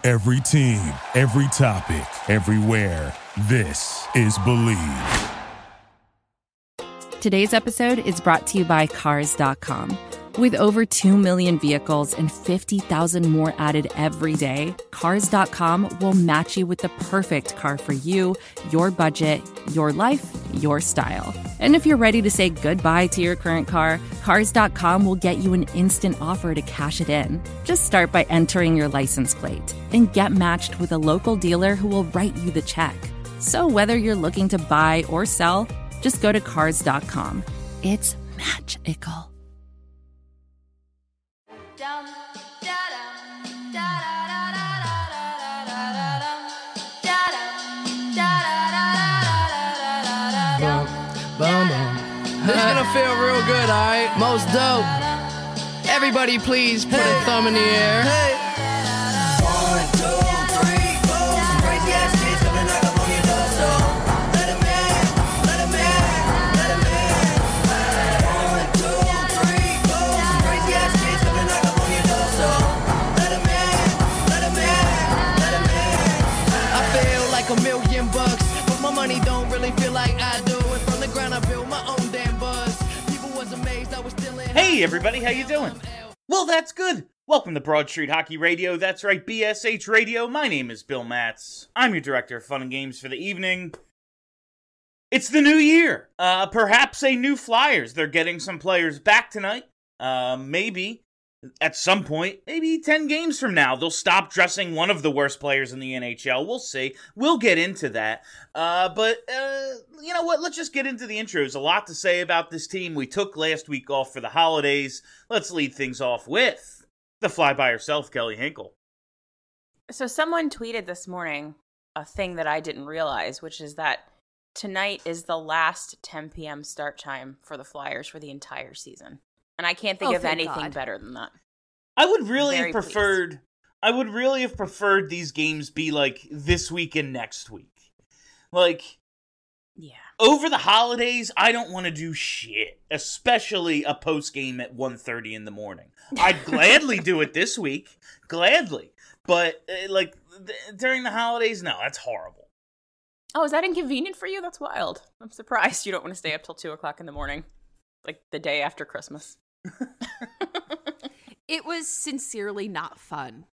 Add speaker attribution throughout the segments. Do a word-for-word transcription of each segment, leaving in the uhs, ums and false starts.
Speaker 1: Every team, every topic, everywhere. This is Believe.
Speaker 2: Today's episode is brought to you by Cars dot com. With over two million vehicles and fifty thousand more added every day, Cars dot com will match you with the perfect car for you, your budget, your life, your style. And if you're ready to say goodbye to your current car, Cars dot com will get you an instant offer to cash it in. Just start by entering your license plate and get matched with a local dealer who will write you the check. So whether you're looking to buy or sell, just go to Cars dot com. It's magical.
Speaker 3: Boom, boom. This is gonna feel real good, alright? Most dope. Everybody please put hey. a thumb in the air. Hey. One, two, three, four. Some crazy ass kids coming knock up on your door. So let 'em in, let 'em in, let 'em in. One, two, three, four. Some crazy ass kids coming knock up on your door. So let 'em in, let 'em in, let 'em in. I feel like a million bucks, but my money don't really feel like I do. I built my own damn buzz. People was amazed I was still in.
Speaker 4: Hey everybody, how you doing? Well, that's good. Welcome to Broad Street Hockey Radio. That's right, B S H Radio. My name is Bill Matz. I'm your director of fun and games for the evening. It's the new year. Uh, perhaps a new Flyers. They're getting some players back tonight. Uh, maybe at some point, maybe ten games from now, they'll stop dressing one of the worst players in the N H L. We'll see. We'll get into that. Uh, but, uh, you know what? Let's just get into the intros. A lot to say about this team. We took last week off for the holidays. Let's lead things off with the fly by herself, Kelly Hinkle.
Speaker 5: So someone tweeted this morning a thing that I didn't realize, which is that tonight is the last ten p.m. start time for the Flyers for the entire season. And I can't think
Speaker 6: oh,
Speaker 5: of anything
Speaker 6: God.
Speaker 5: better than that.
Speaker 4: I would really
Speaker 5: Very
Speaker 4: have preferred
Speaker 5: pleased.
Speaker 4: I would really have preferred these games be like this week and next week. Like,
Speaker 5: yeah.
Speaker 4: Over the holidays, I don't want to do shit, especially a post game at one thirty in the morning. I'd gladly do it this week, gladly. But uh, like th- during the holidays, no, that's horrible.
Speaker 5: Oh, is that inconvenient for you? That's wild. I'm surprised you don't want to stay up till two o'clock in the morning, like the day after Christmas.
Speaker 6: It was sincerely not fun.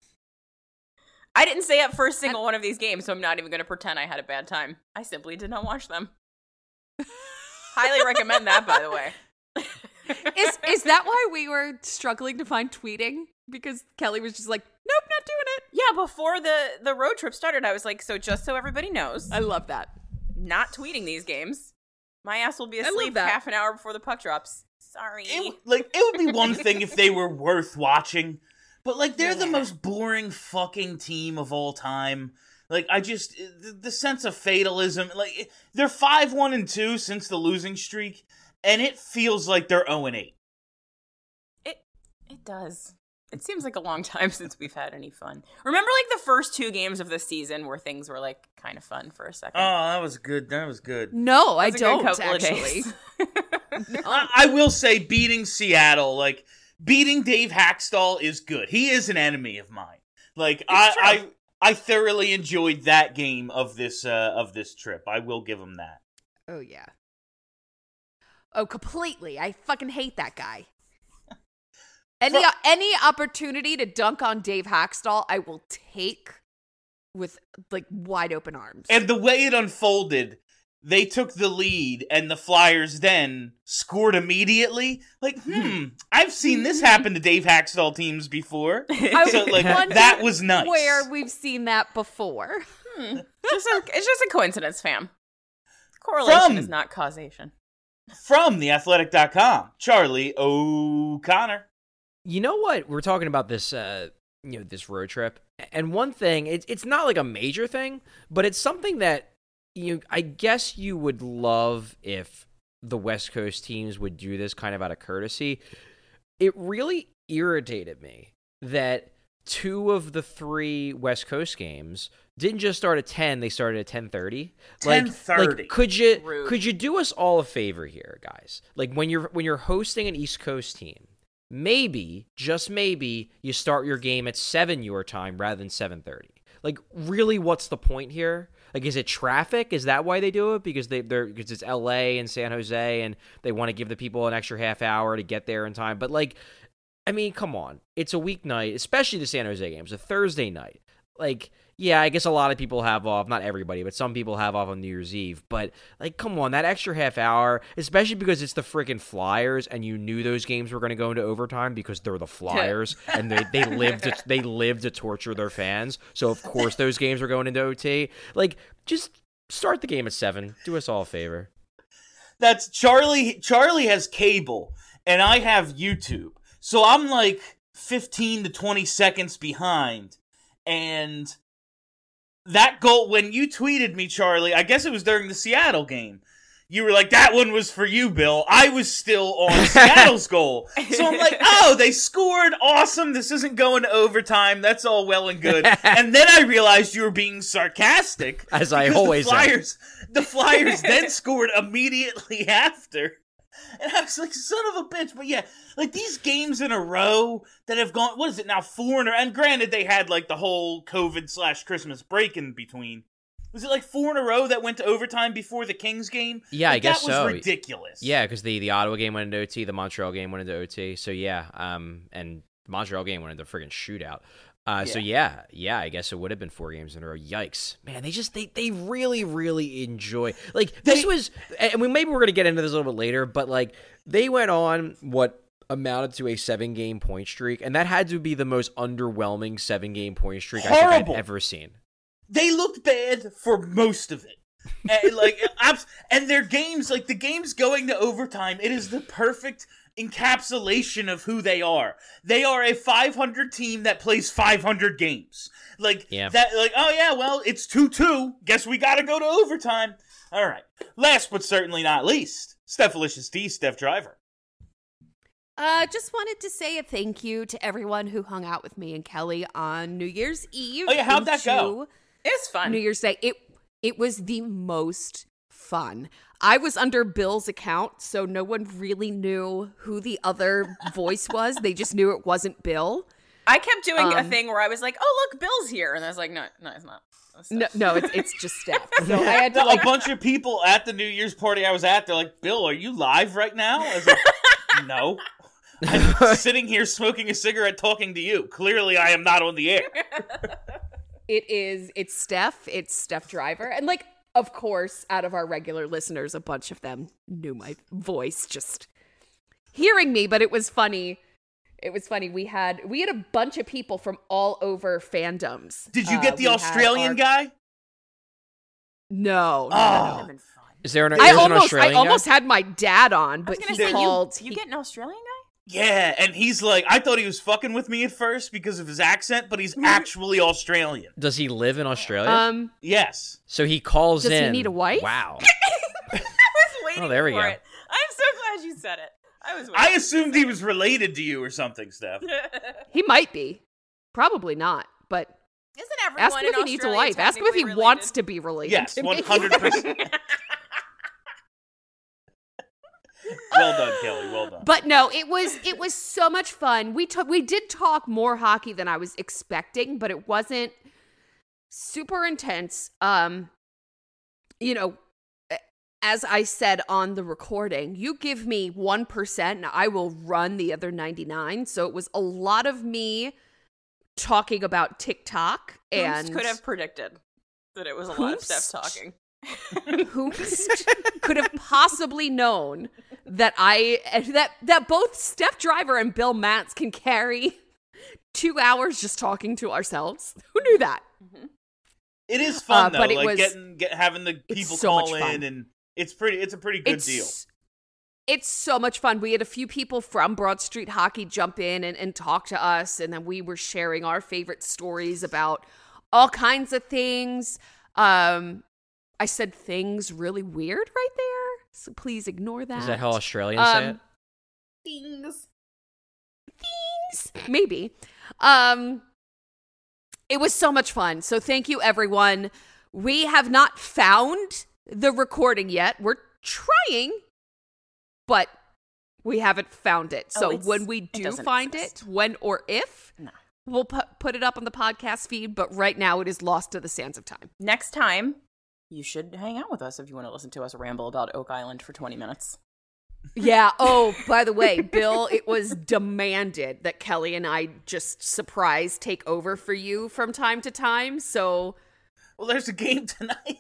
Speaker 5: I didn't stay up for a single one of these games, so I'm not even going to pretend I had a bad time. I simply did not watch them. Highly recommend that, by the way.
Speaker 6: Is is that why we were struggling to find tweeting? Because Kelly was just like, nope, not doing it.
Speaker 5: Yeah, before the, the road trip started, I was like, so just so everybody knows.
Speaker 6: I love that.
Speaker 5: Not tweeting these games. My ass will be
Speaker 6: I love
Speaker 5: asleep
Speaker 6: that.
Speaker 5: half an hour before the puck drops. Sorry.
Speaker 4: It, like, it would be one thing if they were worth watching, but, like, they're
Speaker 5: Yeah.
Speaker 4: the most boring fucking team of all time. Like, I just, the, the sense of fatalism, like, they're five one and two since the losing streak, and it feels like they're oh and eight.
Speaker 5: It it does. It seems like a long time since we've had any fun. Remember, like, the first two games of the season where things were, like, kind of fun for a second?
Speaker 4: Oh, that was good. That was good.
Speaker 6: No, I
Speaker 5: That was a good
Speaker 6: don't,
Speaker 5: couple of
Speaker 6: actually.
Speaker 5: days.
Speaker 6: No.
Speaker 4: I, I will say beating Seattle, like, beating Dave Hackstall is good. He is an enemy of mine. Like, I, I I thoroughly enjoyed that game of this uh, of this trip. I will give him that.
Speaker 6: Oh, yeah. Oh, completely. I fucking hate that guy. Any
Speaker 4: For-
Speaker 6: any opportunity to dunk on Dave Hackstall, I will take with, like, wide open arms.
Speaker 4: And the way it unfolded, they took the lead, and the Flyers then scored immediately. Like, hmm, I've seen this happen to Dave Hackstall teams before.
Speaker 6: I
Speaker 4: So, like,
Speaker 6: wonder
Speaker 4: that was nice.
Speaker 6: Where we've seen that before.
Speaker 5: Hmm. Just a, it's just a coincidence, fam. Correlation
Speaker 4: From-
Speaker 5: is not causation.
Speaker 4: From the athletic dot com, Charlie O'Connor.
Speaker 7: You know what? We're talking about this, uh, you know, this road trip, and one thing, it's it's not like a major thing, but it's something that you, I guess, you would love if the West Coast teams would do this kind of out of courtesy. It really irritated me that two of the three West Coast games didn't just start at ten; they started at ten thirty.
Speaker 4: ten
Speaker 7: Like,
Speaker 4: thirty.
Speaker 7: like, could you
Speaker 5: Rude.
Speaker 7: could you do us all a favor here, guys? Like when you're when you're hosting an East Coast team, maybe, just maybe, you start your game at seven your time rather than seven thirty. like, really, what's the point here? Like, is it traffic? Is that why they do it? Because they they're because it's L A and San Jose, and they want to give the people an extra half hour to get there in time. But like, I mean, come on, it's a weeknight, especially the San Jose games, a Thursday night. Like, yeah, I guess a lot of people have off, not everybody, but some people have off on New Year's Eve. But, like, come on, that extra half hour, especially because it's the freaking Flyers, and you knew those games were going to go into overtime because they're the Flyers, and they, they live to, they live to torture their fans. So, of course, those games are going into O T. Like, just start the game at seven. Do us all a favor.
Speaker 4: That's Charlie. Charlie has cable, and I have YouTube. So I'm like fifteen to twenty seconds behind. And that goal, when you tweeted me, Charlie, I guess it was during the Seattle game, you were like, that one was for you, Bill. I was still on Seattle's goal. So I'm like, oh, they scored. Awesome. This isn't going to overtime. That's all well and good. And then I realized you were being sarcastic.
Speaker 7: As I always
Speaker 4: the Flyers, the Flyers then scored immediately after. And I was like, son of a bitch. But yeah, like these games in a row that have gone, what is it now, four in a row? And granted, they had like the whole COVID slash Christmas break in between. Was it like four in a row that went to overtime before the Kings game?
Speaker 7: Yeah,
Speaker 4: like,
Speaker 7: I guess
Speaker 4: that was
Speaker 7: so.
Speaker 4: ridiculous.
Speaker 7: Yeah, because the, the Ottawa game went into O T, the Montreal game went into O T. So yeah, um, and the Montreal game went into a friggin' shootout. Uh, yeah. So yeah, yeah, I guess it would have been four games in a row. Yikes, man! They just they they really really enjoy like this they, was. And we maybe we're gonna get into this a little bit later, but like they went on what amounted to a seven game point streak, and that had to be the most underwhelming seven game point streak horrible. I think I've ever seen.
Speaker 4: They looked bad for most of it. and, like and their games, like the games going to overtime, it is the perfect encapsulation of who they are. They are a five hundred team that plays five hundred games. Like
Speaker 7: yeah.
Speaker 4: that like oh yeah, well, it's two two. Guess we got to go to overtime. All right. Last but certainly not least, Stephalicious D, Steph Driver.
Speaker 6: Uh, just wanted to say a thank you to everyone who hung out with me and Kelly on New Year's Eve.
Speaker 4: Oh yeah, how'd that go?
Speaker 5: It's fun.
Speaker 6: New Year's Day. It it was the most fun. I was under Bill's account, so no one really knew who the other voice was. They just knew it wasn't Bill.
Speaker 5: I kept doing
Speaker 6: um,
Speaker 5: a thing where I was like, "Oh, look, Bill's here," and I was like, "No, no, it's not." It's
Speaker 6: no, no, it's it's just Steph. So I had to like
Speaker 4: a bunch of people at the New Year's party I was at. They're like, "Bill, are you live right now?" I was like, "No, I'm sitting here smoking a cigarette, talking to you. Clearly, I am not on the air."
Speaker 6: It is. It's Steph. It's Steph Driver, and like. Of course, out of our regular listeners, a bunch of them knew my voice just hearing me, but it was funny. It was funny. We had we had a bunch of people from all over fandoms.
Speaker 4: Did you get
Speaker 6: uh,
Speaker 4: the Australian our... guy?
Speaker 6: No. no,
Speaker 4: oh.
Speaker 6: no.
Speaker 7: Is there an,
Speaker 6: I
Speaker 7: an
Speaker 6: almost,
Speaker 7: Australian
Speaker 6: I almost
Speaker 7: guy?
Speaker 6: had my dad on, but he
Speaker 5: say,
Speaker 6: called.
Speaker 5: You, you
Speaker 6: he,
Speaker 5: get an Australian guy?
Speaker 4: Yeah, and he's like, I thought he was fucking with me at first because of his accent, but he's actually Australian.
Speaker 7: Does he live in Australia?
Speaker 6: Um,
Speaker 4: yes.
Speaker 7: So he calls
Speaker 6: does
Speaker 7: in.
Speaker 6: Does he need a wife?
Speaker 7: Wow.
Speaker 5: I was waiting
Speaker 7: oh, there we
Speaker 5: for
Speaker 7: go.
Speaker 5: it. I'm so glad you said it. I was.
Speaker 4: I assumed he was related to you or something, Steph.
Speaker 6: He might be. Probably not, but
Speaker 5: isn't everyone
Speaker 6: ask him if he needs a wife. Ask him if he
Speaker 5: related?
Speaker 6: wants to be related.
Speaker 4: Yes,
Speaker 6: to
Speaker 4: one hundred percent. Well done, Kelly. Well done.
Speaker 6: But no, it was it was so much fun. We took we did talk more hockey than I was expecting, but it wasn't super intense. Um, you know, as I said on the recording, you give me one percent and I will run the other ninety-nine. So it was a lot of me talking about TikTok. And
Speaker 5: Hoops could have predicted that it was a lot of Steph talking.
Speaker 6: Hoops could have possibly known that I that that both Steph Driver and Bill Matz can carry two hours just talking to ourselves. Who knew that?
Speaker 5: Mm-hmm.
Speaker 4: It is fun
Speaker 6: uh,
Speaker 4: though,
Speaker 6: but it
Speaker 4: like
Speaker 6: was,
Speaker 4: getting get having the people
Speaker 6: so
Speaker 4: call in, and it's pretty. It's a pretty good
Speaker 6: it's,
Speaker 4: deal.
Speaker 6: It's so much fun. We had a few people from Broad Street Hockey jump in and, and talk to us, and then we were sharing our favorite stories about all kinds of things. Um, I said things really weird right there, so please ignore that.
Speaker 7: Is that how Australians
Speaker 6: um,
Speaker 7: say it?
Speaker 6: Things. Things. Maybe. Um, it was so much fun. So thank you, everyone. We have not found the recording yet. We're trying, but we haven't found it. So
Speaker 5: oh,
Speaker 6: when we do find
Speaker 5: exist.
Speaker 6: it, when or if,
Speaker 5: no.
Speaker 6: we'll pu- put it up on the podcast feed, but right now it is lost to the sands of time.
Speaker 5: Next time, you should hang out with us if you want to listen to us ramble about Oak Island for twenty minutes.
Speaker 6: Yeah. Oh, by the way, Bill, it was demanded that Kelly and I just surprise take over for you from time to time. So,
Speaker 4: Well, there's a game tonight.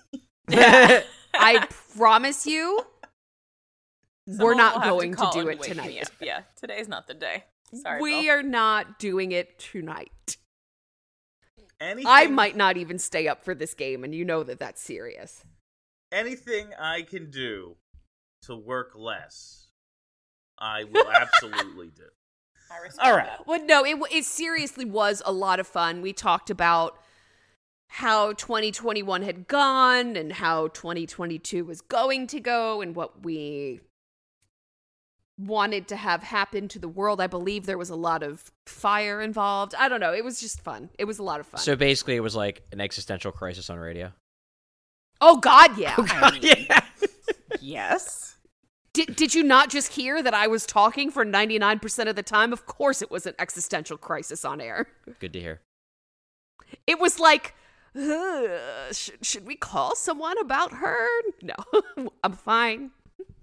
Speaker 6: I promise you, we're
Speaker 5: Someone
Speaker 6: not
Speaker 5: will have
Speaker 6: going to,
Speaker 5: call
Speaker 6: do
Speaker 5: and
Speaker 6: it
Speaker 5: wake me
Speaker 6: tonight.
Speaker 5: up. Yeah, today's not the day. Sorry,
Speaker 6: we
Speaker 5: Bill.
Speaker 6: are not doing it tonight.
Speaker 4: Anything,
Speaker 6: I might not even stay up for this game, and you know that that's serious.
Speaker 4: Anything I can do to work less, I will absolutely do.
Speaker 5: I respect
Speaker 4: All right.
Speaker 5: that.
Speaker 6: Well, no, it it seriously was a lot of fun. We talked about how twenty twenty-one had gone and how twenty twenty-two was going to go and what we wanted to have happen to the world. I believe there was a lot of fire involved. I don't know. It was just fun. It was a lot of fun.
Speaker 7: So basically, it was like an existential crisis on radio.
Speaker 6: oh, God, yeah.
Speaker 5: I mean,
Speaker 7: yeah.
Speaker 5: yes.
Speaker 6: Did, did you not just hear that I was talking for ninety-nine percent of the time? Of course it was an existential crisis on air.
Speaker 7: Good to hear.
Speaker 6: It was like, uh, should, should we call someone about her? No, I'm fine.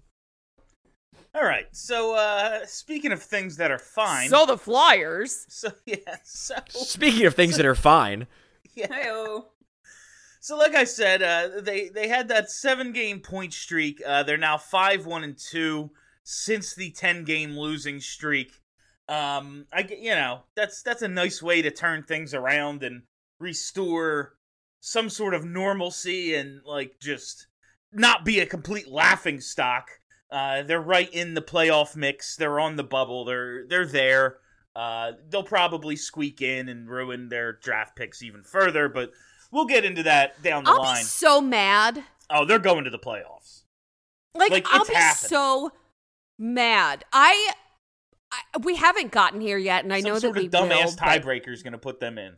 Speaker 4: All right. So, uh, speaking of things that are fine.
Speaker 6: So the Flyers.
Speaker 4: So yeah. So
Speaker 7: Speaking of things that are fine,
Speaker 4: yeah.
Speaker 5: Hey-o.
Speaker 4: So, like I said, uh, they they had that seven game point streak. Uh, they're now five one and two since the ten game losing streak. Um, I get- you know that's that's a nice way to turn things around and restore some sort of normalcy and like just not be a complete laughing stock. Uh, they're right in the playoff mix. They're on the bubble. They're they're there. Uh, they'll probably squeak in and ruin their draft picks even further, but we'll get into that down the
Speaker 6: I'll
Speaker 4: line.
Speaker 6: be so mad.
Speaker 4: Oh, they're going to the playoffs.
Speaker 6: Like,
Speaker 4: Like,
Speaker 6: I'll
Speaker 4: it's
Speaker 6: be
Speaker 4: happening.
Speaker 6: so mad. I, I, we haven't gotten here yet, and I
Speaker 4: Some
Speaker 6: know
Speaker 4: sort
Speaker 6: that we
Speaker 4: of dumbass
Speaker 6: will. but-
Speaker 4: tiebreaker is going to put them in.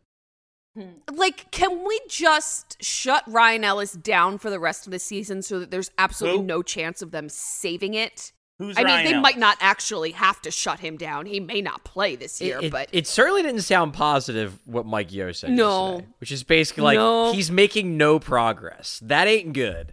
Speaker 6: Like, can we just shut Ryan Ellis down for the rest of the season so that there's absolutely
Speaker 4: Who?
Speaker 6: no chance of them saving it?
Speaker 4: Who's
Speaker 6: I mean,
Speaker 4: Ryan
Speaker 6: they
Speaker 4: Ellis?
Speaker 6: might not actually have to shut him down. He may not play this year,
Speaker 7: it, it,
Speaker 6: but
Speaker 7: it certainly didn't sound positive what Mike Yo said
Speaker 6: No.
Speaker 7: yesterday, which is basically like
Speaker 6: No.
Speaker 7: he's making no progress. That ain't good.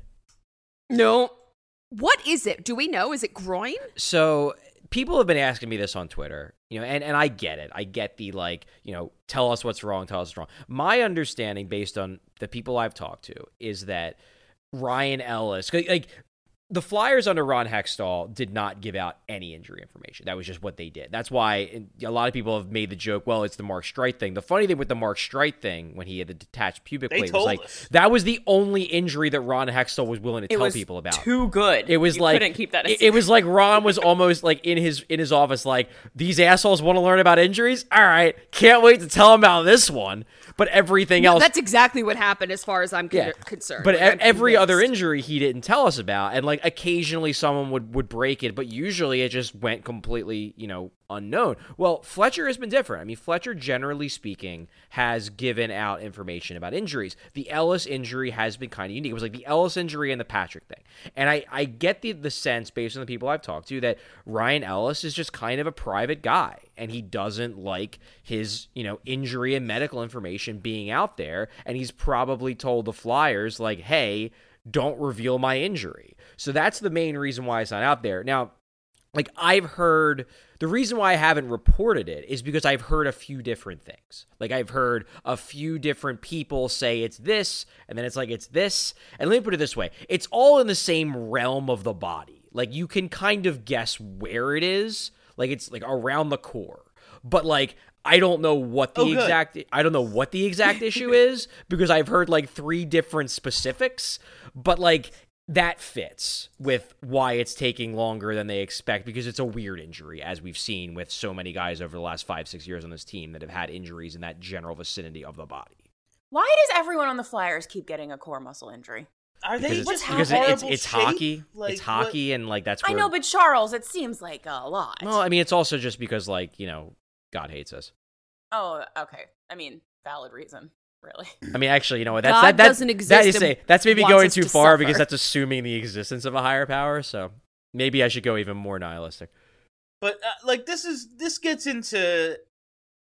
Speaker 6: no. What is it? Do we know? Is it groin?
Speaker 7: So people have been asking me this on Twitter, you know, and, and I get it. I get the like, you know, tell us what's wrong, tell us what's wrong. My understanding based on the people I've talked to is that Ryan Ellis, like the Flyers under Ron Hextall did not give out any injury information. That was just what they did. That's why a lot of people have made the joke, well, it's the Mark Streit thing. The funny thing with the Mark Streit thing, when he had the detached pubic
Speaker 4: They
Speaker 7: plate, was
Speaker 4: told
Speaker 7: like,
Speaker 4: us.
Speaker 7: that was the only injury that Ron Hextall was willing to
Speaker 5: It
Speaker 7: tell
Speaker 5: was
Speaker 7: people about.
Speaker 5: too good.
Speaker 7: It was
Speaker 5: You
Speaker 7: like
Speaker 5: couldn't keep that. A
Speaker 7: it, it
Speaker 5: secret.
Speaker 7: was like Ron was almost like in his in his office, like these assholes want to learn about injuries. All right, can't wait to tell them about this one. But everything else,
Speaker 6: That's exactly what happened as far as I'm con-
Speaker 7: yeah.
Speaker 6: concerned.
Speaker 7: But
Speaker 6: Like,
Speaker 7: e-
Speaker 6: I'm
Speaker 7: every other
Speaker 6: convinced.
Speaker 7: injury he didn't tell us about, and like occasionally someone would would break it, but usually it just went completely, you know, unknown. Well, Fletcher has been different. I mean, Fletcher, generally speaking, has given out information about injuries. The Ellis injury has been kind of unique. It was like the Ellis injury and the Patrick thing. And I, I get the, the sense, based on the people I've talked to, that Ryan Ellis is just kind of a private guy, and he doesn't like his, you know, injury and medical information being out there, and he's probably told the Flyers, like, hey, don't reveal my injury. So that's the main reason why it's not out there. Now, like, I've heard, the reason why I haven't reported it is because I've heard a few different things. Like, I've heard a few different people say it's this, and then it's like it's this. And let me put it this way. It's all in the same realm of the body. Like, you can kind of guess where it is. Like, it's, like, around the core. But, like, I don't know what the
Speaker 4: Oh, good.
Speaker 7: exact, I don't know what the exact issue is, because I've heard, like, three different specifics. But, like, that fits with why it's taking longer than they expect, because it's a weird injury, as we've seen with so many guys over the last five, six years on this team that have had injuries in that general vicinity of the body.
Speaker 5: Why does everyone on the Flyers keep getting a core muscle injury?
Speaker 4: Are they
Speaker 7: Because it's,
Speaker 4: just
Speaker 7: because
Speaker 4: in
Speaker 7: it- it's,
Speaker 4: horrible
Speaker 7: it's
Speaker 4: shape?
Speaker 7: hockey.
Speaker 4: Like,
Speaker 7: it's hockey, and like that's
Speaker 5: I
Speaker 7: where,
Speaker 5: know, but Charles, it seems like a lot.
Speaker 7: well, I mean, it's also just because, like, you know, God hates us.
Speaker 5: oh, okay. I mean, valid reason, really.
Speaker 7: I mean, actually, you know what? That's
Speaker 6: God
Speaker 7: that, that,
Speaker 6: doesn't exist
Speaker 7: That is
Speaker 6: and
Speaker 7: say, that's maybe
Speaker 6: wants
Speaker 7: going
Speaker 6: us
Speaker 7: too
Speaker 6: to
Speaker 7: far
Speaker 6: suffer.
Speaker 7: because that's assuming the existence of a higher power. So maybe I should go even more nihilistic.
Speaker 4: But uh, like this is this gets into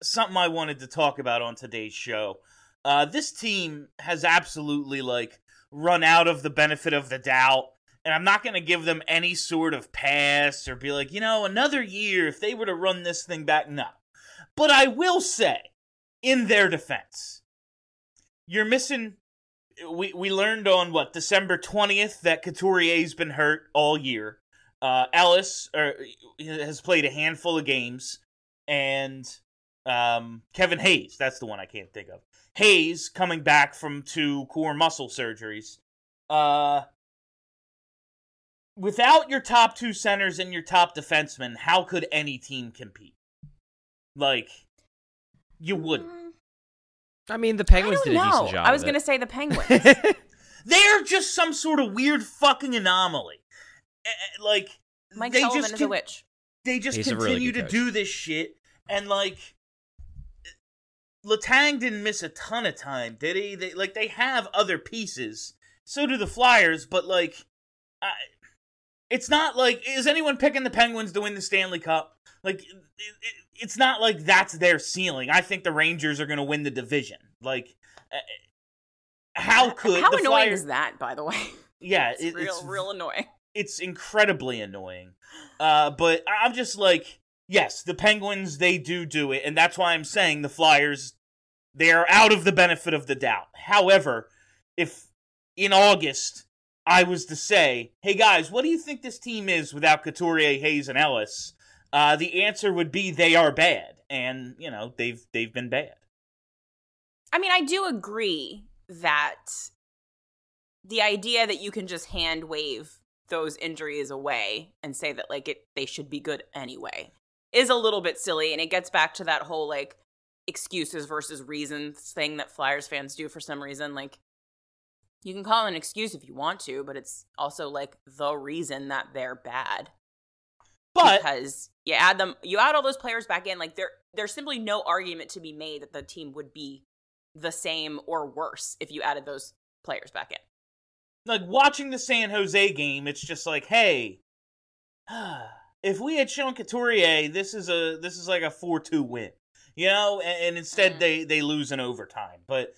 Speaker 4: something I wanted to talk about on today's show. Uh, this team has absolutely, like, run out of the benefit of the doubt, and I'm not going to give them any sort of pass or be like, you know, another year if they were to run this thing back. No. But I will say, in their defense, you're missing... We, we learned on, what, December twentieth that Couturier's been hurt all year. Uh, Ellis er, has played a handful of games, and um, Kevin Hayes, that's the one I can't think of. Hayes coming back from two core muscle surgeries. Uh, without your top two centers and your top defensemen, how could any team compete? Like, you wouldn't.
Speaker 7: I mean, the Penguins
Speaker 5: I don't
Speaker 7: did a
Speaker 5: know.
Speaker 7: decent job.
Speaker 5: I was
Speaker 7: going
Speaker 5: to say the Penguins.
Speaker 4: They're just some sort of weird fucking anomaly. Like,
Speaker 5: Mike
Speaker 4: they
Speaker 5: Sullivan
Speaker 4: just
Speaker 5: is
Speaker 4: con-
Speaker 5: a witch.
Speaker 4: They just
Speaker 7: He's a
Speaker 4: continue
Speaker 7: really
Speaker 4: to
Speaker 7: good coach.
Speaker 4: do this shit, and like, Letang didn't miss a ton of time, did he? They, like, they have other pieces. So do the Flyers, but like, I, it's not like, is anyone picking the Penguins to win the Stanley Cup? Like, it, it, it's not like that's their ceiling. I think the Rangers are going to win the division. Like, how could
Speaker 5: How
Speaker 4: the
Speaker 5: annoying
Speaker 4: Flyers...
Speaker 5: is that, by the way?
Speaker 4: Yeah,
Speaker 5: it's
Speaker 4: it,
Speaker 5: real,
Speaker 4: it's
Speaker 5: real annoying.
Speaker 4: It's incredibly annoying. Uh, but I'm just like, yes, the Penguins, they do do it, and that's why I'm saying the Flyers, they are out of the benefit of the doubt. However, if in August I was to say, hey guys, what do you think this team is without Couturier, Hayes, and Ellis? Uh, the answer would be they are bad, and you know they've they've been bad.
Speaker 5: I mean, I do agree that the idea that you can just hand wave those injuries away and say that like it they should be good anyway is a little bit silly, and it gets back to that whole like excuses versus reasons thing that Flyers fans do for some reason. Like, you can call it an excuse if you want to, but it's also like the reason that they're bad.
Speaker 4: But
Speaker 5: because you add them, you add all those players back in, like there, there's simply no argument to be made that the team would be the same or worse if you added those players back in.
Speaker 4: Like, watching the San Jose game, it's just like, hey, if we had shown Couturier, this is a this is like a four two win, you know, and, and instead mm. they they lose in overtime. But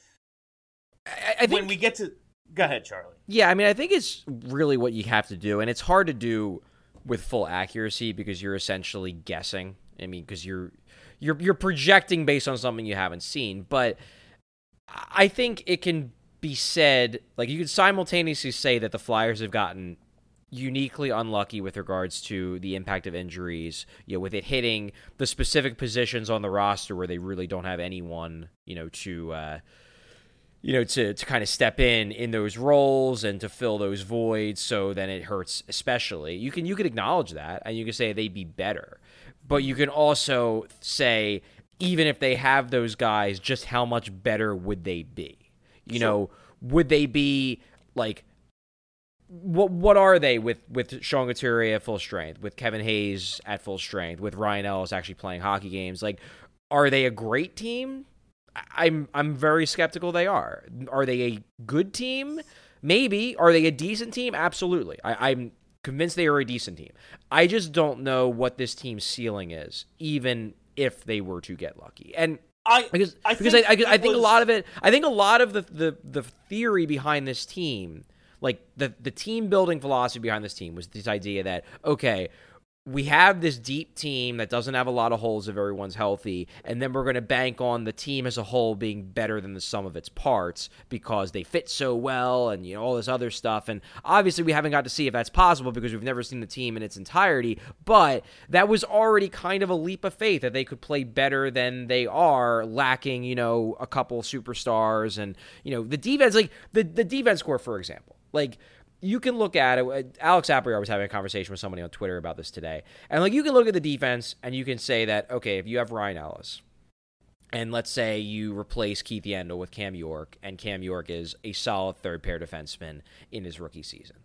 Speaker 7: I, I think,
Speaker 4: when we get to, go ahead, Charlie.
Speaker 7: Yeah, I mean, I think it's really what you have to do, and it's hard to do with full accuracy because you're essentially guessing. I mean, because you're you're you're projecting based on something you haven't seen. But I think it can be said, like, you could simultaneously say that the Flyers have gotten uniquely unlucky with regards to the impact of injuries, you know, with it hitting the specific positions on the roster where they really don't have anyone, you know, to uh, you know, to, to kind of step in in those roles and to fill those voids, so then it hurts especially. You can you can acknowledge that, and you can say they'd be better. But you can also say, even if they have those guys, just how much better would they be? You sure. know, would they be, like, what what are they with, with Sean Couturier at full strength, with Kevin Hayes at full strength, with Ryan Ellis actually playing hockey games? Like, are they a great team? I'm I'm very skeptical they are. Are they a good team? Maybe. Are they a decent team? Absolutely. I, I'm convinced they are a decent team. I just don't know what this team's ceiling is, even if they were to get lucky. And
Speaker 4: I
Speaker 7: because
Speaker 4: I
Speaker 7: because
Speaker 4: think
Speaker 7: I, I, I think
Speaker 4: was...
Speaker 7: a lot of it. I think a lot of the, the, the theory behind this team, like the the team building philosophy behind this team, was this idea that, okay, we have this deep team that doesn't have a lot of holes if everyone's healthy, and then we're going to bank on the team as a whole being better than the sum of its parts because they fit so well and, you know, all this other stuff. And obviously we haven't got to see if that's possible because we've never seen the team in its entirety, but that was already kind of a leap of faith that they could play better than they are, lacking, you know, a couple superstars and, you know, the defense, like the, the defense core, for example, like, you can look at it. Alex Appier was having a conversation with somebody on Twitter about this today. And, like, you can look at the defense and you can say that, okay, if you have Ryan Ellis, and let's say you replace Keith Yandle with Cam York, and Cam York is a solid third-pair defenseman in his rookie season.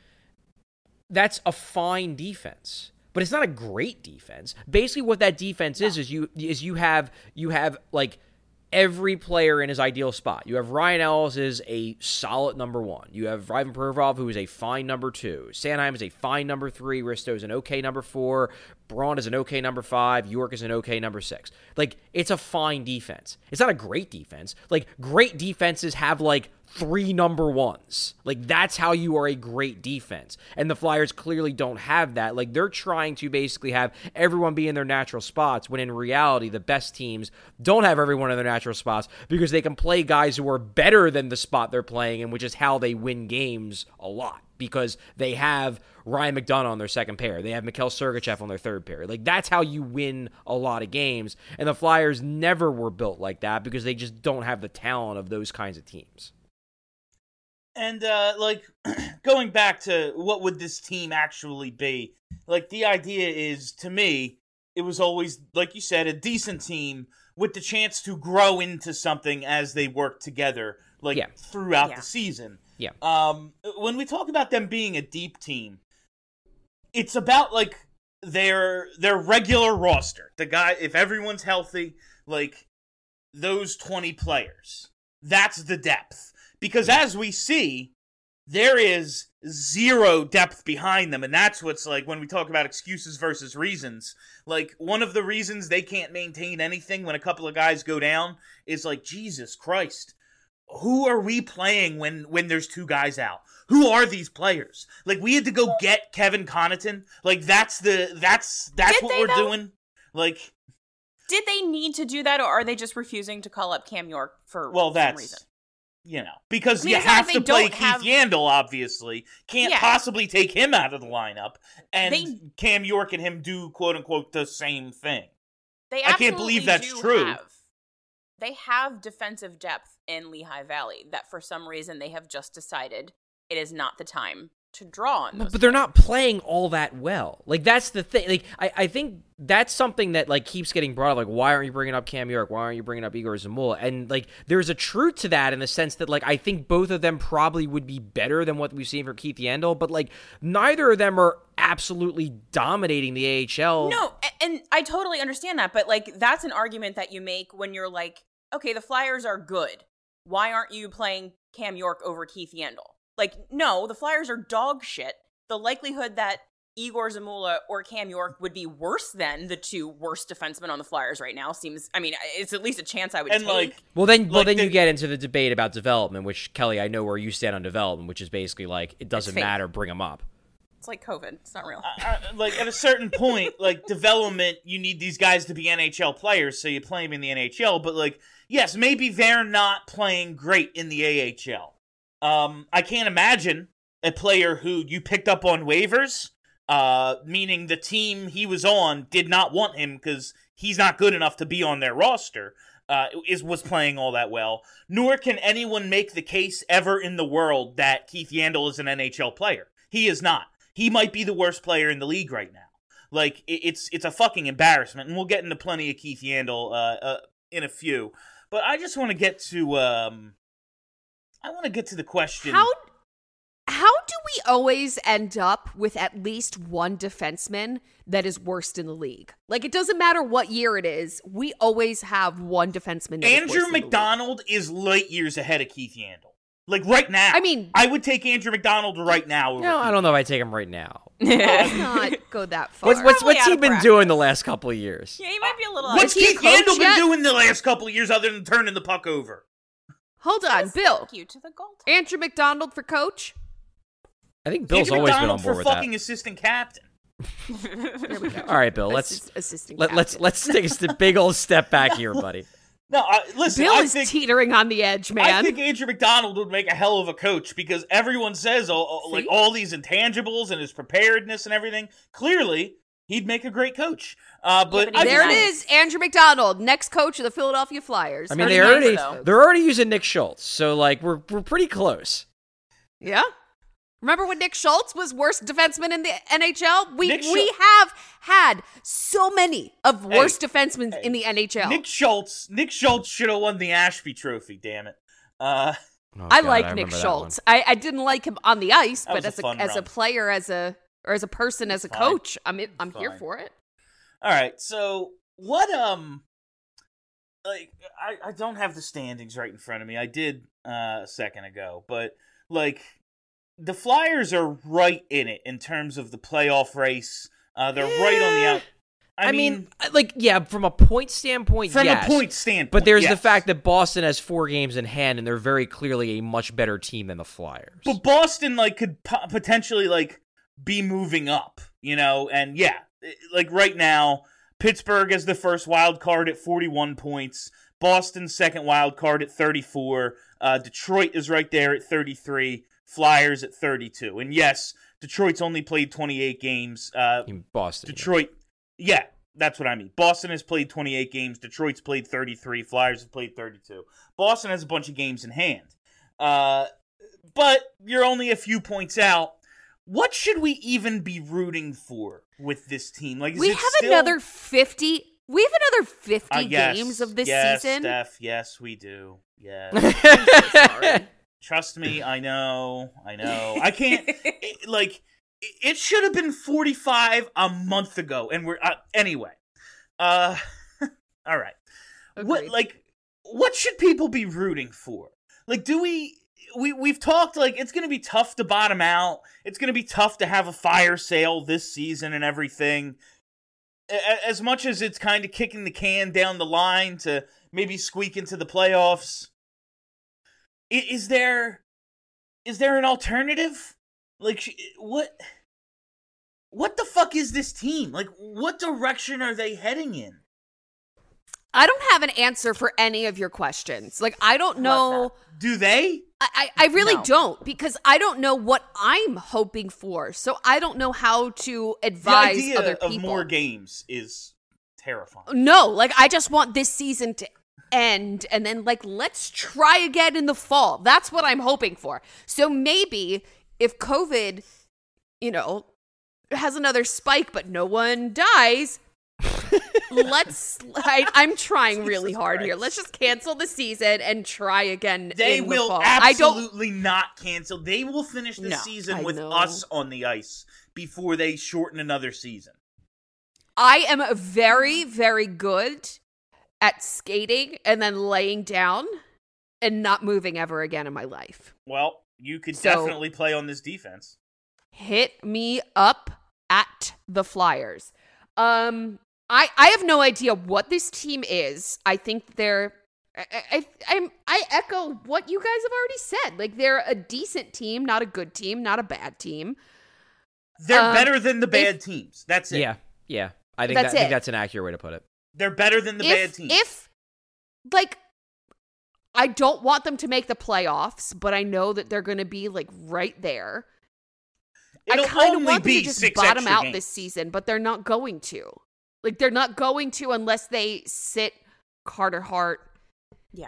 Speaker 7: That's a fine defense. But it's not a great defense. Basically what that defense is is you is you have you have, like, every player in his ideal spot. You have Ryan Ellis is a solid number one. You have Ivan Provorov, who is a fine number two. Sanheim is a fine number three. Risto is an okay number four. Braun is an okay number five. York is an okay number six. Like, it's a fine defense. It's not a great defense. Like, great defenses have, like, three number ones. Like, that's how you are a great defense. And the Flyers clearly don't have that. Like, they're trying to basically have everyone be in their natural spots, when in reality, the best teams don't have everyone in their natural spots because they can play guys who are better than the spot they're playing in, which is how they win games a lot, because they have Ryan McDonough on their second pair. They have Mikhail Sergachev on their third pair. Like, that's how you win a lot of games. And the Flyers never were built like that because they just don't have the talent of those kinds of teams.
Speaker 4: And, uh, like, going back to what would this team actually be, like, the idea is, to me, it was always, like you said, a decent team with the chance to grow into something as they work together, like,
Speaker 7: yeah.
Speaker 4: throughout
Speaker 5: Yeah.
Speaker 4: the season.
Speaker 7: Yeah.
Speaker 4: Um, when we talk about them being a deep team, it's about, like, their their regular roster. The guy, if everyone's healthy, like, those twenty players. That's the depth. Because as we see, there is zero depth behind them. And that's what's like, when we talk about excuses versus reasons, like, one of the reasons they can't maintain anything when a couple of guys go down is like, Jesus Christ, who are we playing when, when there's two guys out? Who are these players? Like, we had to go get Kevin Connaughton. Like, that's the, that's, that's
Speaker 5: Did
Speaker 4: what
Speaker 5: they,
Speaker 4: we're
Speaker 5: though?
Speaker 4: doing. Like,
Speaker 5: Did they need to do that, or are they just refusing to call up Cam York for
Speaker 4: well,
Speaker 5: some
Speaker 4: that's,
Speaker 5: reason?
Speaker 4: you know, because
Speaker 5: I mean,
Speaker 4: you
Speaker 5: it's not
Speaker 4: have
Speaker 5: like
Speaker 4: to
Speaker 5: they
Speaker 4: play
Speaker 5: don't
Speaker 4: Keith
Speaker 5: have-
Speaker 4: Yandel, obviously. Can't
Speaker 5: Yeah.
Speaker 4: possibly take him out of the lineup. And
Speaker 5: They-
Speaker 4: Cam York and him do, quote-unquote, the same thing.
Speaker 5: They
Speaker 4: I can't believe
Speaker 5: absolutely
Speaker 4: that's
Speaker 5: do
Speaker 4: true.
Speaker 5: Have, they have defensive depth in Lehigh Valley that for some reason they have just decided it is not the time to draw on those.
Speaker 7: But they're not playing all that well. Like, that's the thing. Like, I, I think that's something that, like, keeps getting brought up. Like, why aren't you bringing up Cam York? Why aren't you bringing up Igor Zamula? And, like, there's a truth to that in the sense that, like, I think both of them probably would be better than what we've seen from Keith Yandel. But, like, neither of them are absolutely dominating the A H L.
Speaker 5: No, a- and I totally understand that. But, like, that's an argument that you make when you're like, okay, the Flyers are good. Why aren't you playing Cam York over Keith Yandel? Like, no, the Flyers are dog shit. The likelihood that Igor Zamula or Cam York would be worse than the two worst defensemen on the Flyers right now seems, I mean, it's at least a chance I would
Speaker 4: And,
Speaker 5: take.
Speaker 4: like,
Speaker 7: Well, then, well,
Speaker 4: Like
Speaker 7: then
Speaker 4: the-
Speaker 7: you get into the debate about development, which, Kelly, I know where you stand on development, which is basically like, it doesn't
Speaker 5: fake.
Speaker 7: matter, bring them up.
Speaker 5: It's like COVID. It's not real.
Speaker 4: I, I- like, at a certain point, like, development, you need these guys to be N H L players, so you play them in the N H L. But, like, yes, maybe they're not playing great in the A H L. Um, I can't imagine a player who you picked up on waivers, uh, meaning the team he was on did not want him because he's not good enough to be on their roster, uh, is was playing all that well. Nor can anyone make the case ever in the world that Keith Yandel is an N H L player. He is not. He might be the worst player in the league right now. Like, it, it's it's a fucking embarrassment, and we'll get into plenty of Keith Yandel uh, uh, in a few. But I just want to get to um, I want to get to the question.
Speaker 6: How how do we always end up with at least one defenseman that is worst in the league? Like, it doesn't matter what year it is, we always have one defenseman that is
Speaker 4: Andrew
Speaker 6: worst in the league.
Speaker 4: McDonald is light years ahead of Keith Yandel. Like, right now.
Speaker 6: I mean-
Speaker 4: I would take Andrew McDonald right now. Over
Speaker 7: No,
Speaker 4: Keith
Speaker 7: I don't know if I take him right now.
Speaker 6: Let's not go that far.
Speaker 7: What's, what's,
Speaker 5: Probably
Speaker 7: what's
Speaker 5: out
Speaker 7: he
Speaker 5: of
Speaker 7: been
Speaker 5: practice.
Speaker 7: doing the last couple of years?
Speaker 5: Yeah, he might be a little.
Speaker 4: What's
Speaker 6: Is he a
Speaker 4: Keith
Speaker 6: coach
Speaker 4: Yandel been
Speaker 6: yet?
Speaker 4: doing the last couple of years other than turning the puck over?
Speaker 6: Hold on, Bill.
Speaker 5: Thank you to the gold.
Speaker 6: Andrew McDonald for coach?
Speaker 7: I think Bill's
Speaker 4: Andrew
Speaker 7: always been
Speaker 4: McDonald
Speaker 7: on board
Speaker 4: for
Speaker 7: with
Speaker 4: fucking
Speaker 7: that.
Speaker 4: assistant captain.
Speaker 6: There we go.
Speaker 7: All right, Bill, let's
Speaker 6: Assist- assistant
Speaker 7: let, let's
Speaker 6: captain.
Speaker 7: let's take a st- big old step back here, buddy.
Speaker 4: No, I, listen,
Speaker 6: Bill
Speaker 4: I
Speaker 6: is
Speaker 4: think,
Speaker 6: teetering on the edge,
Speaker 4: I
Speaker 6: man.
Speaker 4: think Andrew McDonald would make a hell of a coach because everyone says all, all- like
Speaker 6: See?
Speaker 4: all these intangibles and his preparedness and everything. Clearly, he'd make a great coach. Uh, but
Speaker 5: but he's
Speaker 4: I
Speaker 6: There it
Speaker 5: nice.
Speaker 6: is, Andrew McDonald, next coach of the Philadelphia Flyers.
Speaker 7: I mean,
Speaker 5: Pretty
Speaker 7: they
Speaker 5: nice,
Speaker 7: already
Speaker 5: though.
Speaker 7: they're already using Nick Schultz, so like we're we're pretty close.
Speaker 6: Yeah. Remember when Nick Schultz was worst defenseman in the N H L? We
Speaker 4: Nick
Speaker 6: we
Speaker 4: Schul-
Speaker 6: have had so many of
Speaker 4: Hey,
Speaker 6: worst defensemen
Speaker 4: hey,
Speaker 6: in the N H L.
Speaker 4: Nick Schultz, Nick Schultz should have won the Ashby Trophy. Damn it. Uh,
Speaker 7: Oh,
Speaker 6: I
Speaker 7: God,
Speaker 6: like
Speaker 7: I
Speaker 6: Nick
Speaker 7: remember that
Speaker 6: Schultz. I, I didn't like him on the ice,
Speaker 4: That
Speaker 6: but
Speaker 4: was a
Speaker 6: as a,
Speaker 4: fun
Speaker 6: as a
Speaker 4: run.
Speaker 6: player, as a or as a person, as a
Speaker 4: Fine.
Speaker 6: coach, I'm in, I'm here
Speaker 4: Fine.
Speaker 6: for it.
Speaker 4: all right. So what? Um, like I, I don't have the standings right in front of me. I did uh, a second ago, but like the Flyers are right in it in terms of the playoff race. Uh, they're yeah. right on the out. I,
Speaker 7: I
Speaker 4: mean,
Speaker 7: mean, like, yeah, from a point standpoint,
Speaker 4: from
Speaker 7: yes.
Speaker 4: a point standpoint,
Speaker 7: but there's
Speaker 4: yes.
Speaker 7: the fact that Boston has four games in hand, and they're very clearly a much better team than the Flyers.
Speaker 4: But Boston, like, could po- potentially, like, be moving up, you know? And, yeah, like, right now, Pittsburgh is the first wild card at forty-one points. Boston's second wild card at thirty-four. Uh, Detroit is right there at thirty-three. Flyers at thirty-two. And, yes, Detroit's only played twenty-eight games. Uh,
Speaker 7: in Boston.
Speaker 4: Detroit... Yeah, that's what I mean. Boston has played twenty-eight games. Detroit's played thirty-three. Flyers have played thirty-two. Boston has a bunch of games in hand. Uh, but you're only a few points out. What should we even be rooting for with this team? Like, is
Speaker 6: we
Speaker 4: it
Speaker 6: have
Speaker 4: still...
Speaker 6: another fifty. We have another fifty
Speaker 4: uh, yes,
Speaker 6: games of this
Speaker 4: yes,
Speaker 6: season.
Speaker 4: Steph, yes, we do. Yes.
Speaker 6: I'm so sorry.
Speaker 4: Trust me, I know. I know. I can't. it, like. It should have been forty-five a month ago, and we're uh, anyway. Uh, all right. Agreed. What like what should people be rooting for? Like, do we we we've talked like it's going to be tough to bottom out. It's going to be tough to have a fire sale this season and everything. As much as it's kind of kicking the can down the line to maybe squeak into the playoffs, is there is there an alternative? Like, what what the fuck is this team? Like, what direction are they heading in?
Speaker 6: I don't have an answer for any of your questions. Like, I don't know.
Speaker 4: Do they?
Speaker 6: I, I, I really
Speaker 5: No.
Speaker 6: don't, because I don't know what I'm hoping for. So I don't know how to advise
Speaker 4: the idea
Speaker 6: other people.
Speaker 4: of more games is terrifying.
Speaker 6: No, like, I just want this season to end, and then, like, let's try again in the fall. That's what I'm hoping for. So maybe... if COVID, you know, has another spike, but no one dies, let's, I, I'm trying really
Speaker 4: Jesus
Speaker 6: hard
Speaker 4: Christ.
Speaker 6: here. Let's just cancel the season and try again
Speaker 4: They
Speaker 6: in
Speaker 4: will
Speaker 6: the fall.
Speaker 4: absolutely not cancel. They will finish the
Speaker 6: No,
Speaker 4: season
Speaker 6: I
Speaker 4: with
Speaker 6: know.
Speaker 4: us on the ice before they shorten another season.
Speaker 6: I am very, very good at skating and then laying down and not moving ever again in my life.
Speaker 4: Well, you could
Speaker 6: So-
Speaker 4: definitely play on this defense.
Speaker 6: Hit me up at the Flyers. Um, I I have no idea what this team is. I think they're. I, I I'm I echo what you guys have already said. Like, they're a decent team, not a good team, not a bad team.
Speaker 4: They're
Speaker 6: Um,
Speaker 4: better than the bad
Speaker 6: if-
Speaker 4: teams. That's it.
Speaker 7: Yeah, yeah. I think
Speaker 6: That's
Speaker 7: that, I think
Speaker 6: it.
Speaker 7: that's an accurate way to put it.
Speaker 4: They're better than the
Speaker 6: if,
Speaker 4: bad teams.
Speaker 6: If, like, I don't want them to make the playoffs, but I know that they're going to be, like, right there.
Speaker 4: It'll
Speaker 6: I kind of
Speaker 4: only
Speaker 6: want them
Speaker 4: be
Speaker 6: to just
Speaker 4: six
Speaker 6: bottom
Speaker 4: extra
Speaker 6: out
Speaker 4: games.
Speaker 6: this season, but they're not going to. Like, they're not going to unless they sit Carter Hart.
Speaker 5: Yeah.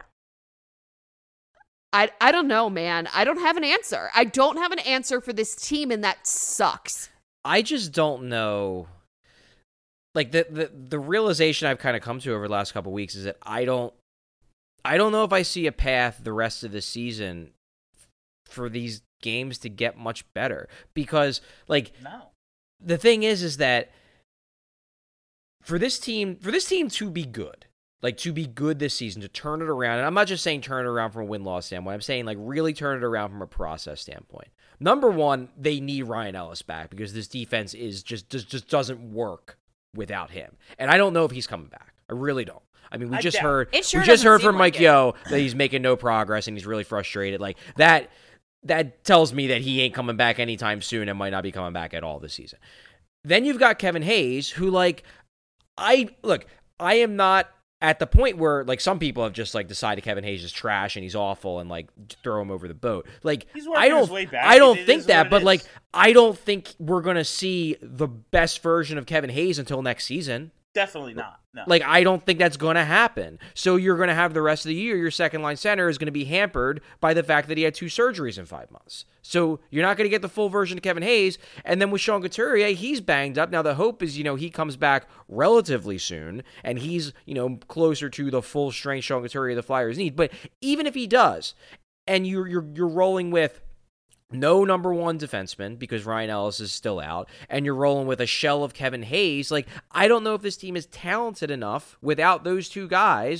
Speaker 6: I, I don't know, man. I don't have an answer. I don't have an answer for this team, and that sucks.
Speaker 7: I just don't know. Like, the the, the realization I've kind of come to over the last couple of weeks is that I don't I don't know if I see a path the rest of the season for these games to get much better. Because, like,
Speaker 4: No.
Speaker 7: the thing is, is that for this team, for this team to be good, like, to be good this season, to turn it around, and I'm not just saying turn it around from a win-loss standpoint, I'm saying, like, really turn it around from a process standpoint. Number one, they need Ryan Ellis back because this defense is just just, just doesn't work without him. And I don't know if he's coming back. I really don't. I mean, we
Speaker 4: I
Speaker 7: just
Speaker 4: doubt
Speaker 7: heard
Speaker 5: it. It sure
Speaker 7: we just
Speaker 5: doesn't
Speaker 7: heard
Speaker 5: seem
Speaker 7: from Mike
Speaker 5: like it.
Speaker 7: Yo that he's making no progress and he's really frustrated. Like, that that tells me that he ain't coming back anytime soon and might not be coming back at all this season. Then you've got Kevin Hayes, who, like, I look, I am not at the point where, like, some people have just, like, decided Kevin Hayes is trash and he's awful and, like, throw him over the boat. Like,
Speaker 4: He's working
Speaker 7: I don't
Speaker 4: his way back.
Speaker 7: I don't
Speaker 4: It
Speaker 7: think
Speaker 4: is
Speaker 7: that,
Speaker 4: what it
Speaker 7: but
Speaker 4: is.
Speaker 7: like, I don't think we're going to see the best version of Kevin Hayes until next season.
Speaker 4: Definitely not. No.
Speaker 7: Like, I don't think that's going to happen. So you're going to have the rest of the year, your second line center is going to be hampered by the fact that he had two surgeries in five months. So you're not going to get the full version of Kevin Hayes. And then with Sean Couturier, he's banged up. Now the hope is, you know, he comes back relatively soon and he's, you know, closer to the full strength Sean Couturier the Flyers need. But even if he does, and you're you're you're rolling with no number one defenseman because Ryan Ellis is still out, and you're rolling with a shell of Kevin Hayes. Like, I don't know if this team is talented enough without those two guys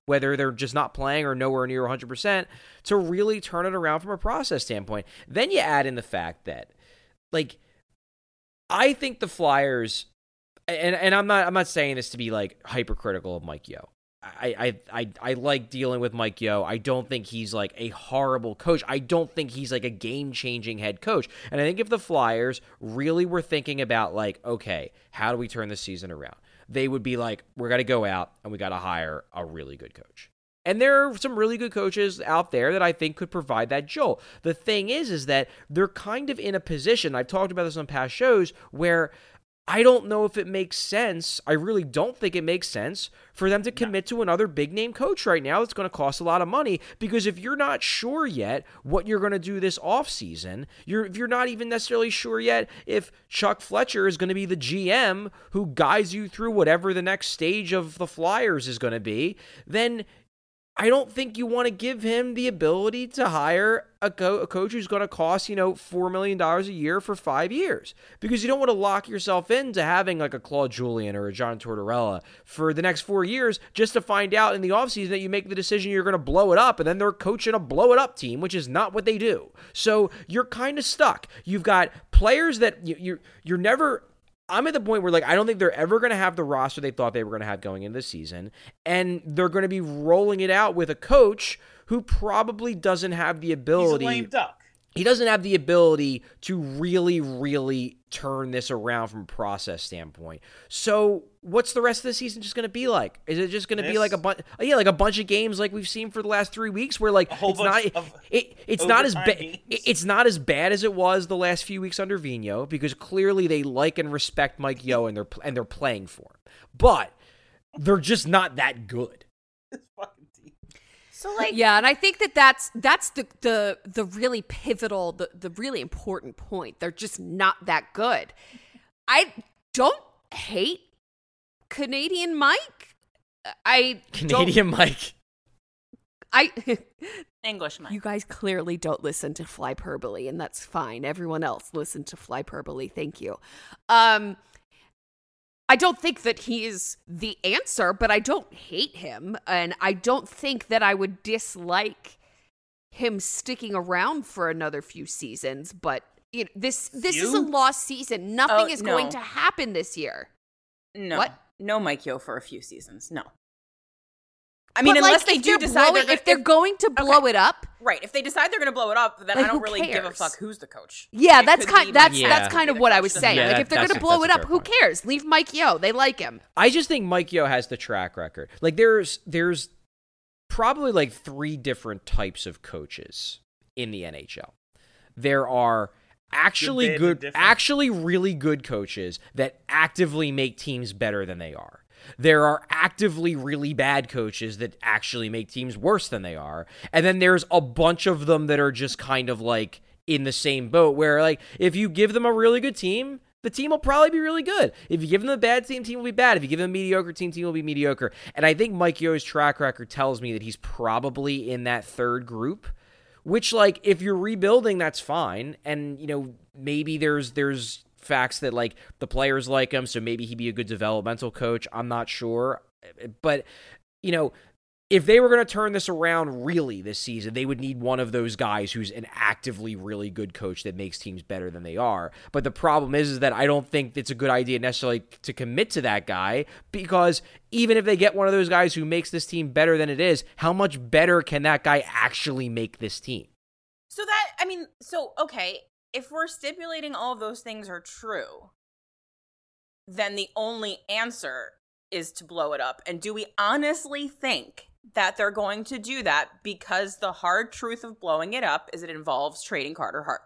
Speaker 7: whether they're just not playing or nowhere near one hundred percent, to really turn it around from a process standpoint. Then you add in the fact that, like, I think the Flyers, and and I'm not I'm not saying this to be like hypercritical of Mike Yeo. I, I I I like dealing with Mike Yeo. I don't think he's like a horrible coach. I don't think he's like a game-changing head coach. And I think if the Flyers really were thinking about like, okay, how do we turn this season around? They would be like, we're going to go out and we got to hire a really good coach. And there are some really good coaches out there that I think could provide that jolt. The thing is, is that they're kind of in a position, I've talked about this on past shows, where I don't know if it makes sense. I really don't think it makes sense for them to commit to another big-name coach right now that's going to cost a lot of money, because if you're not sure yet what you're going to do this offseason, you're, if you're not even necessarily sure yet if Chuck Fletcher is going to be the G M who guides you through whatever the next stage of the Flyers is going to be, then I don't think you want to give him the ability to hire a, co- a coach who's going to cost, you know, four million dollars a year for five years. Because you don't want to lock yourself into having like a Claude Julien or a John Tortorella for the next four years just to find out in the offseason that you make the decision you're going to blow it up, and then they're coaching a blow it up team, which is not what they do. So you're kind of stuck. You've got players that you, you're, you're never... I'm at the point where, like, I don't think they're ever going to have the roster they thought they were going to have going into the season, and they're going to be rolling it out with a coach who probably doesn't have the ability.
Speaker 4: He's a lame duck.
Speaker 7: He doesn't have the ability to really, really turn this around from a process standpoint. So, what's the rest of the season just going to be like? Is it just going to be like a bunch? Yeah, like a bunch of games like we've seen for the last three weeks, where like
Speaker 4: a whole
Speaker 7: it's
Speaker 4: bunch
Speaker 7: not
Speaker 4: of
Speaker 7: it, it's not as bad.
Speaker 4: games.
Speaker 7: It's not as bad as it was the last few weeks under Vigneault, because clearly they like and respect Mike Yeo and they're and they're playing for him, but they're just not that good.
Speaker 5: So like,
Speaker 6: yeah, and I think that that's that's the the the really pivotal, the the really important point. They're just not that good. I don't hate Canadian Mike. I
Speaker 7: Canadian
Speaker 6: don't,
Speaker 7: Mike.
Speaker 6: I
Speaker 5: English Mike.
Speaker 6: You guys clearly don't listen to Flyperbole, and that's fine. Everyone else listen to Flyperbole. Thank you. Um. I don't think that he is the answer, but I don't hate him. And I don't think that I would dislike him sticking around for another few seasons. But you know, this this
Speaker 4: You?
Speaker 6: is a lost season. Nothing
Speaker 5: Oh,
Speaker 6: is
Speaker 5: no.
Speaker 6: going to happen this year.
Speaker 5: No.
Speaker 6: What?
Speaker 5: No Mike Yeo for a few seasons. No. I mean,
Speaker 6: But,
Speaker 5: unless
Speaker 6: like,
Speaker 5: they
Speaker 6: if
Speaker 5: do
Speaker 6: they're
Speaker 5: decide
Speaker 6: blowing,
Speaker 5: they're
Speaker 6: if they're
Speaker 5: if-
Speaker 6: going to blow
Speaker 5: okay.
Speaker 6: it up,
Speaker 5: right. If they decide they're going to blow it up, then
Speaker 6: Like,
Speaker 5: I don't
Speaker 6: who
Speaker 5: really give a
Speaker 6: cares?
Speaker 5: fuck who's the coach.
Speaker 6: yeah,
Speaker 5: It
Speaker 6: that's
Speaker 5: could
Speaker 6: kind
Speaker 5: be
Speaker 6: that's
Speaker 5: Mike
Speaker 7: Yeah.
Speaker 6: that's
Speaker 5: Yeo.
Speaker 6: kind of
Speaker 5: The
Speaker 6: what I
Speaker 5: coach
Speaker 6: was
Speaker 5: doesn't
Speaker 6: saying.
Speaker 7: Yeah,
Speaker 6: Like,
Speaker 7: that-
Speaker 6: if they're going
Speaker 7: that's
Speaker 6: to
Speaker 7: a-
Speaker 6: blow
Speaker 7: that's
Speaker 6: it
Speaker 7: a
Speaker 6: up,
Speaker 7: fair
Speaker 6: who
Speaker 7: point.
Speaker 6: cares? Leave Mike Yeo. They like him.
Speaker 7: I just think Mike Yeo has the track record. Like there's there's probably like three different types of coaches in the N H L. There are actually
Speaker 4: Good, bad,
Speaker 7: good,
Speaker 4: and different.
Speaker 7: actually really good coaches that actively make teams better than they are. There are actively really bad coaches that actually make teams worse than they are. And then there's a bunch of them that are just kind of like in the same boat, where like if you give them a really good team, the team will probably be really good. If you give them a bad team, team will be bad. If you give them a mediocre team, team will be mediocre. And I think Mike Yeo's track record tells me that he's probably in that third group, which, like, if you're rebuilding, that's fine. And, you know, maybe there's there's facts that, like, the players like him, so maybe he'd be a good developmental coach. I'm not sure. But, you know, if they were going to turn this around really this season, they would need one of those guys who's an actively really good coach that makes teams better than they are. But the problem is, is that I don't think it's a good idea necessarily to commit to that guy, because even if they get one of those guys who makes this team better than it is, how much better can that guy actually make this team?
Speaker 5: So that, I mean, so, okay, if we're stipulating all of those things are true, then the only answer is to blow it up. And do we honestly think that they're going to do that, because the hard truth of blowing it up is it involves trading Carter Hart?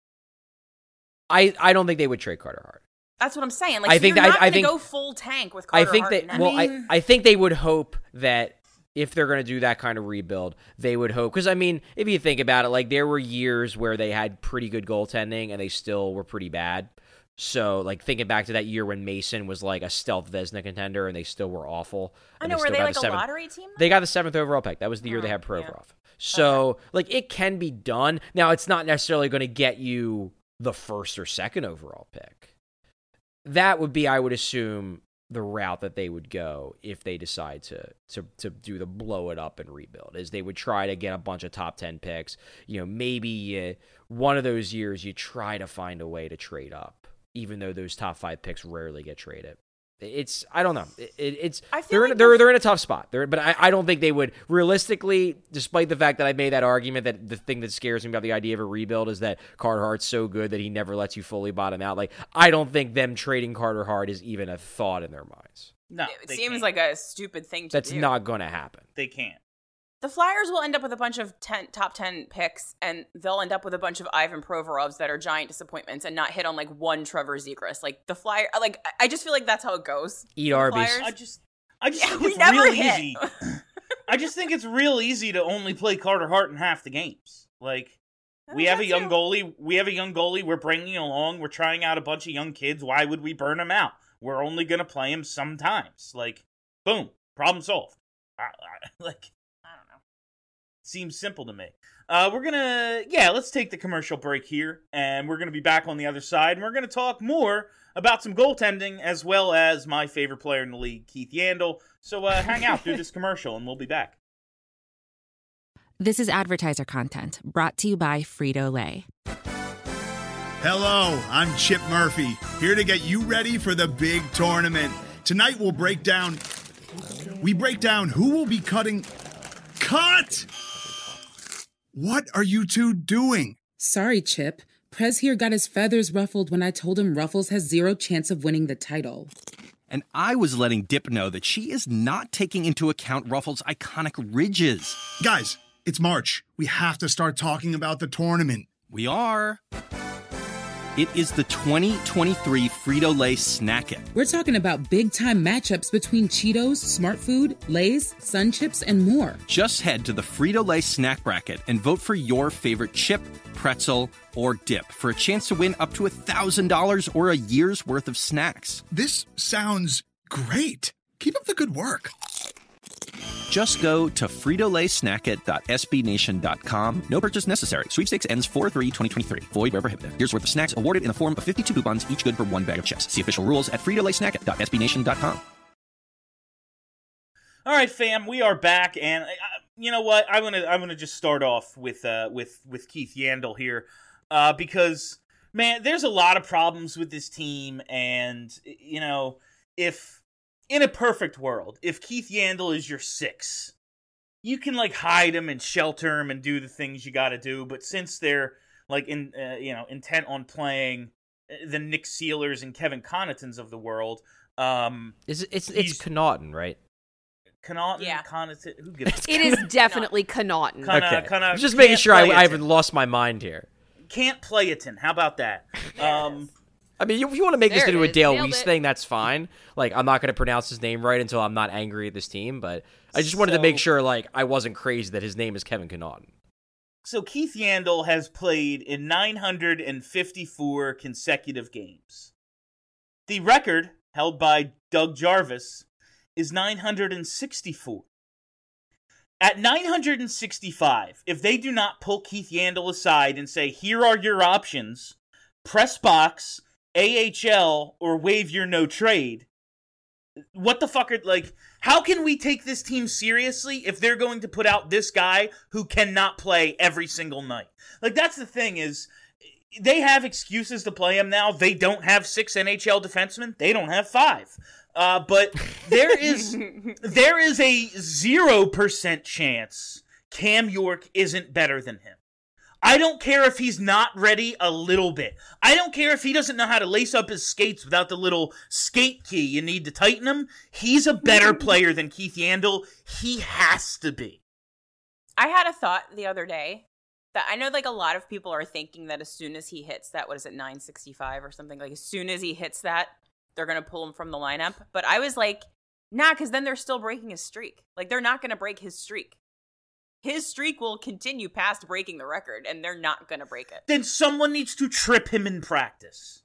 Speaker 7: I, I don't think they would trade Carter Hart.
Speaker 5: That's what I'm saying. Like,
Speaker 7: I
Speaker 5: so
Speaker 7: think
Speaker 5: you're
Speaker 7: that-
Speaker 5: not
Speaker 7: I
Speaker 5: going to
Speaker 7: think-
Speaker 5: go full tank with Carter
Speaker 7: I think
Speaker 5: Hart
Speaker 7: that
Speaker 5: now.
Speaker 7: well, I,
Speaker 4: mean-
Speaker 7: I think they would hope that if they're going to do that kind of rebuild, they would hope, because I mean, if you think about it, like there were years where they had pretty good goaltending and they still were pretty bad. So, like, thinking back to that year when Mason was like a stealth Vezina contender and they still were awful.
Speaker 5: I
Speaker 7: and
Speaker 5: know, were
Speaker 7: still
Speaker 5: they
Speaker 7: got
Speaker 5: like
Speaker 7: the
Speaker 5: a
Speaker 7: seventh-
Speaker 5: lottery team?
Speaker 7: They got the seventh overall pick. That was the year
Speaker 5: Oh,
Speaker 7: they had
Speaker 5: yeah.
Speaker 7: Provorov. So, like, it can be done. Now, it's not necessarily going to get you the first or second overall pick. That would be, I would assume, the route that they would go if they decide to to to do the blow it up and rebuild. Is they would try to get a bunch of top ten picks. You know, maybe uh, one of those years you try to find a way to trade up, even though those top five picks rarely get traded. It's I don't know. It, it's
Speaker 5: I feel
Speaker 7: they're
Speaker 5: like
Speaker 7: in, they're they're in a tough spot. They're, but I, I don't think they would realistically, despite the fact that I made that argument that the thing that scares me about the idea of a rebuild is that Carter Hart's so good that he never lets you fully bottom out. Like I don't think them trading Carter Hart is even a thought in their minds.
Speaker 4: No,
Speaker 5: It
Speaker 4: they
Speaker 5: seems
Speaker 4: can't.
Speaker 5: like a stupid thing to
Speaker 7: That's
Speaker 5: do.
Speaker 7: not going to happen.
Speaker 4: They can't.
Speaker 5: The Flyers will end up with a bunch of ten, top ten picks, and they'll end up with a bunch of Ivan Provorovs that are giant disappointments and not hit on like one Trevor Zegras. Like the Flyer, like I just feel like that's how it goes.
Speaker 7: Eat
Speaker 5: for the
Speaker 7: Arby's.
Speaker 5: Flyers.
Speaker 4: I just, I just
Speaker 5: Yeah,
Speaker 4: think
Speaker 5: we
Speaker 4: it's
Speaker 5: never
Speaker 4: real
Speaker 5: hit.
Speaker 4: easy. I just think it's real easy to only play Carter Hart in half the games. Like we have a
Speaker 5: That's
Speaker 4: young
Speaker 5: true.
Speaker 4: goalie. We have a young goalie. We're bringing along. We're trying out a bunch of young kids. Why would we burn him out? We're only gonna play him sometimes. Like, boom, problem solved. I, I, like. Seems simple to me. Uh, we're gonna, yeah, let's take the commercial break here, and we're gonna be back on the other side, and we're gonna talk more about some goaltending, as well as my favorite player in the league, Keith Yandle. So uh, hang out through this commercial, and we'll be back.
Speaker 2: This is advertiser content brought to you by Frito-Lay.
Speaker 8: Hello, I'm Chip Murphy, here to get you ready for the big tournament. Tonight we'll break down, we break down who will be cutting, cut! What are you two doing?
Speaker 9: Sorry, Chip. Prez here got his feathers ruffled when I told him Ruffles has zero chance of winning the title.
Speaker 10: And I was letting Dip know that she is not taking into account Ruffles' iconic ridges.
Speaker 8: Guys, it's March. We have to start talking about the tournament.
Speaker 10: We are. It is the twenty twenty-three Frito-Lay Snack It.
Speaker 9: We're talking about big-time matchups between Cheetos, Smart Food, Lay's, Sun Chips, and more.
Speaker 10: Just head to the Frito-Lay Snack Bracket and vote for your favorite chip, pretzel, or dip for a chance to win up to one thousand dollars or a year's worth of snacks.
Speaker 8: This sounds great. Keep up the good work.
Speaker 10: Just go to frito lay snack it dot s b nation dot com. No purchase necessary. Sweepstakes ends four three twenty twenty-three. Void where prohibited. Here's worth of snacks awarded in the form of fifty-two coupons, each good for one bag of chips. See official rules at frito lay snack it dot s b nation dot com.
Speaker 4: All right, fam, we are back, and uh, you know what? I'm gonna I'm gonna just start off with uh with with Keith Yandle here, uh, because man, there's a lot of problems with this team, and you know, if in a perfect world, if Keith Yandle is your six, you can like hide him and shelter him and do the things you got to do. But since they're like in uh, you know intent on playing the Nick Sealers and Kevin Connaughtons of the world, um,
Speaker 7: Is it, it's it's Connaughton, right?
Speaker 4: Connaughton,
Speaker 5: Yeah.
Speaker 4: Connaughton, who gives a
Speaker 6: It is definitely Connaughton.
Speaker 4: Kinda-
Speaker 7: Okay.
Speaker 4: kinda
Speaker 7: I'm just making
Speaker 4: can't
Speaker 7: sure I,
Speaker 4: play
Speaker 7: I
Speaker 4: it.
Speaker 7: haven't lost my mind here.
Speaker 4: Can't play it in. How about that? Um,
Speaker 7: I mean, if you want to make this
Speaker 6: There it
Speaker 7: into a
Speaker 6: is.
Speaker 7: Dale
Speaker 6: Nailed
Speaker 7: Weiss
Speaker 6: it.
Speaker 7: thing, that's fine. Like, I'm not going to pronounce his name right until I'm not angry at this team, but I just wanted to make
Speaker 4: So-
Speaker 7: sure, like, I wasn't crazy that his name is Kevin Connaughton.
Speaker 4: so Keith Yandle has played in nine hundred fifty-four consecutive games. The record, held by Doug Jarvis, is nine hundred sixty-four. At nine hundred sixty-five, if they do not pull Keith Yandle aside and say, here are your options, press box, A H L, or waive your no trade, what the fuck are, like, how can we take this team seriously if they're going to put out this guy who cannot play every single night? Like, that's the thing is, they have excuses to play him now. They don't have six N H L defensemen. They don't have five. Uh, but there is there is a zero percent chance Cam York isn't better than him. I don't care if he's not ready a little bit. I don't care if he doesn't know how to lace up his skates without the little skate key you need to tighten them. He's a better player than Keith Yandle. He has to be.
Speaker 5: I had a thought the other day that I know like a lot of people are thinking that as soon as he hits that, what is it, nine sixty-five or something, like as soon as he hits that, they're going to pull him from the lineup. But I was like, nah, because then they're still breaking his streak. Like they're not going to break his streak. His streak will continue past breaking the record, and they're not going to break it.
Speaker 4: Then someone needs to trip him in practice.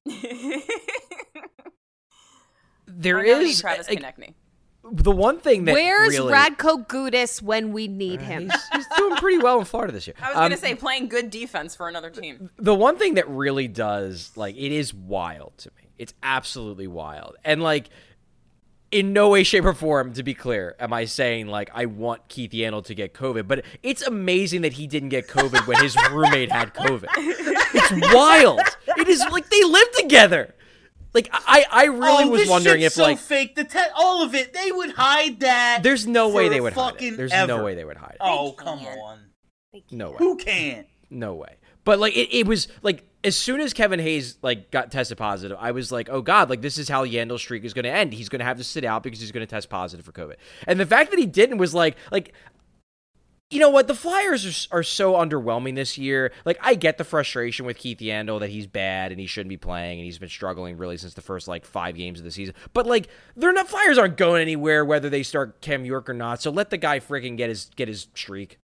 Speaker 7: There
Speaker 5: We're gonna need
Speaker 7: is
Speaker 5: Travis
Speaker 7: like,
Speaker 5: Konechny.
Speaker 7: the one thing that
Speaker 6: Where's
Speaker 7: really,
Speaker 6: Radko Gudas when we need him?
Speaker 7: He's, he's doing pretty well in Florida this year.
Speaker 5: I was
Speaker 7: Um,
Speaker 5: going to say playing good defense for another team.
Speaker 7: the one thing that really does, like, it is wild to me. It's absolutely wild. And, like, in no way, shape, or form, to be clear, am I saying, like, I want Keith Yandle to get COVID. But it's amazing that he didn't get COVID when his roommate had COVID. It's wild. It is, like, they live together. Like, I, I really
Speaker 4: oh,
Speaker 7: was
Speaker 4: this
Speaker 7: wondering
Speaker 4: shit's
Speaker 7: if, like...
Speaker 4: so fake. The te- all of it, they would hide that.
Speaker 7: There's no way they would hide
Speaker 4: fucking
Speaker 7: it. There's
Speaker 4: ever.
Speaker 7: no way they would hide it.
Speaker 4: Oh, come on.
Speaker 7: No way.
Speaker 4: Who can?
Speaker 7: No way. But, like, it, it was, like, as soon as Kevin Hayes, like, got tested positive, I was like, oh, God, like, this is how Yandel's streak is going to end. He's going to have to sit out because he's going to test positive for COVID. And the fact that he didn't was, like, like, you know what? The Flyers are, are so underwhelming this year. Like, I get the frustration with Keith Yandle that he's bad and he shouldn't be playing and he's been struggling really since the first, like, five games of the season. But, like, they're not, Flyers aren't going anywhere whether they start Cam York or not. So let the guy freaking get his get his streak.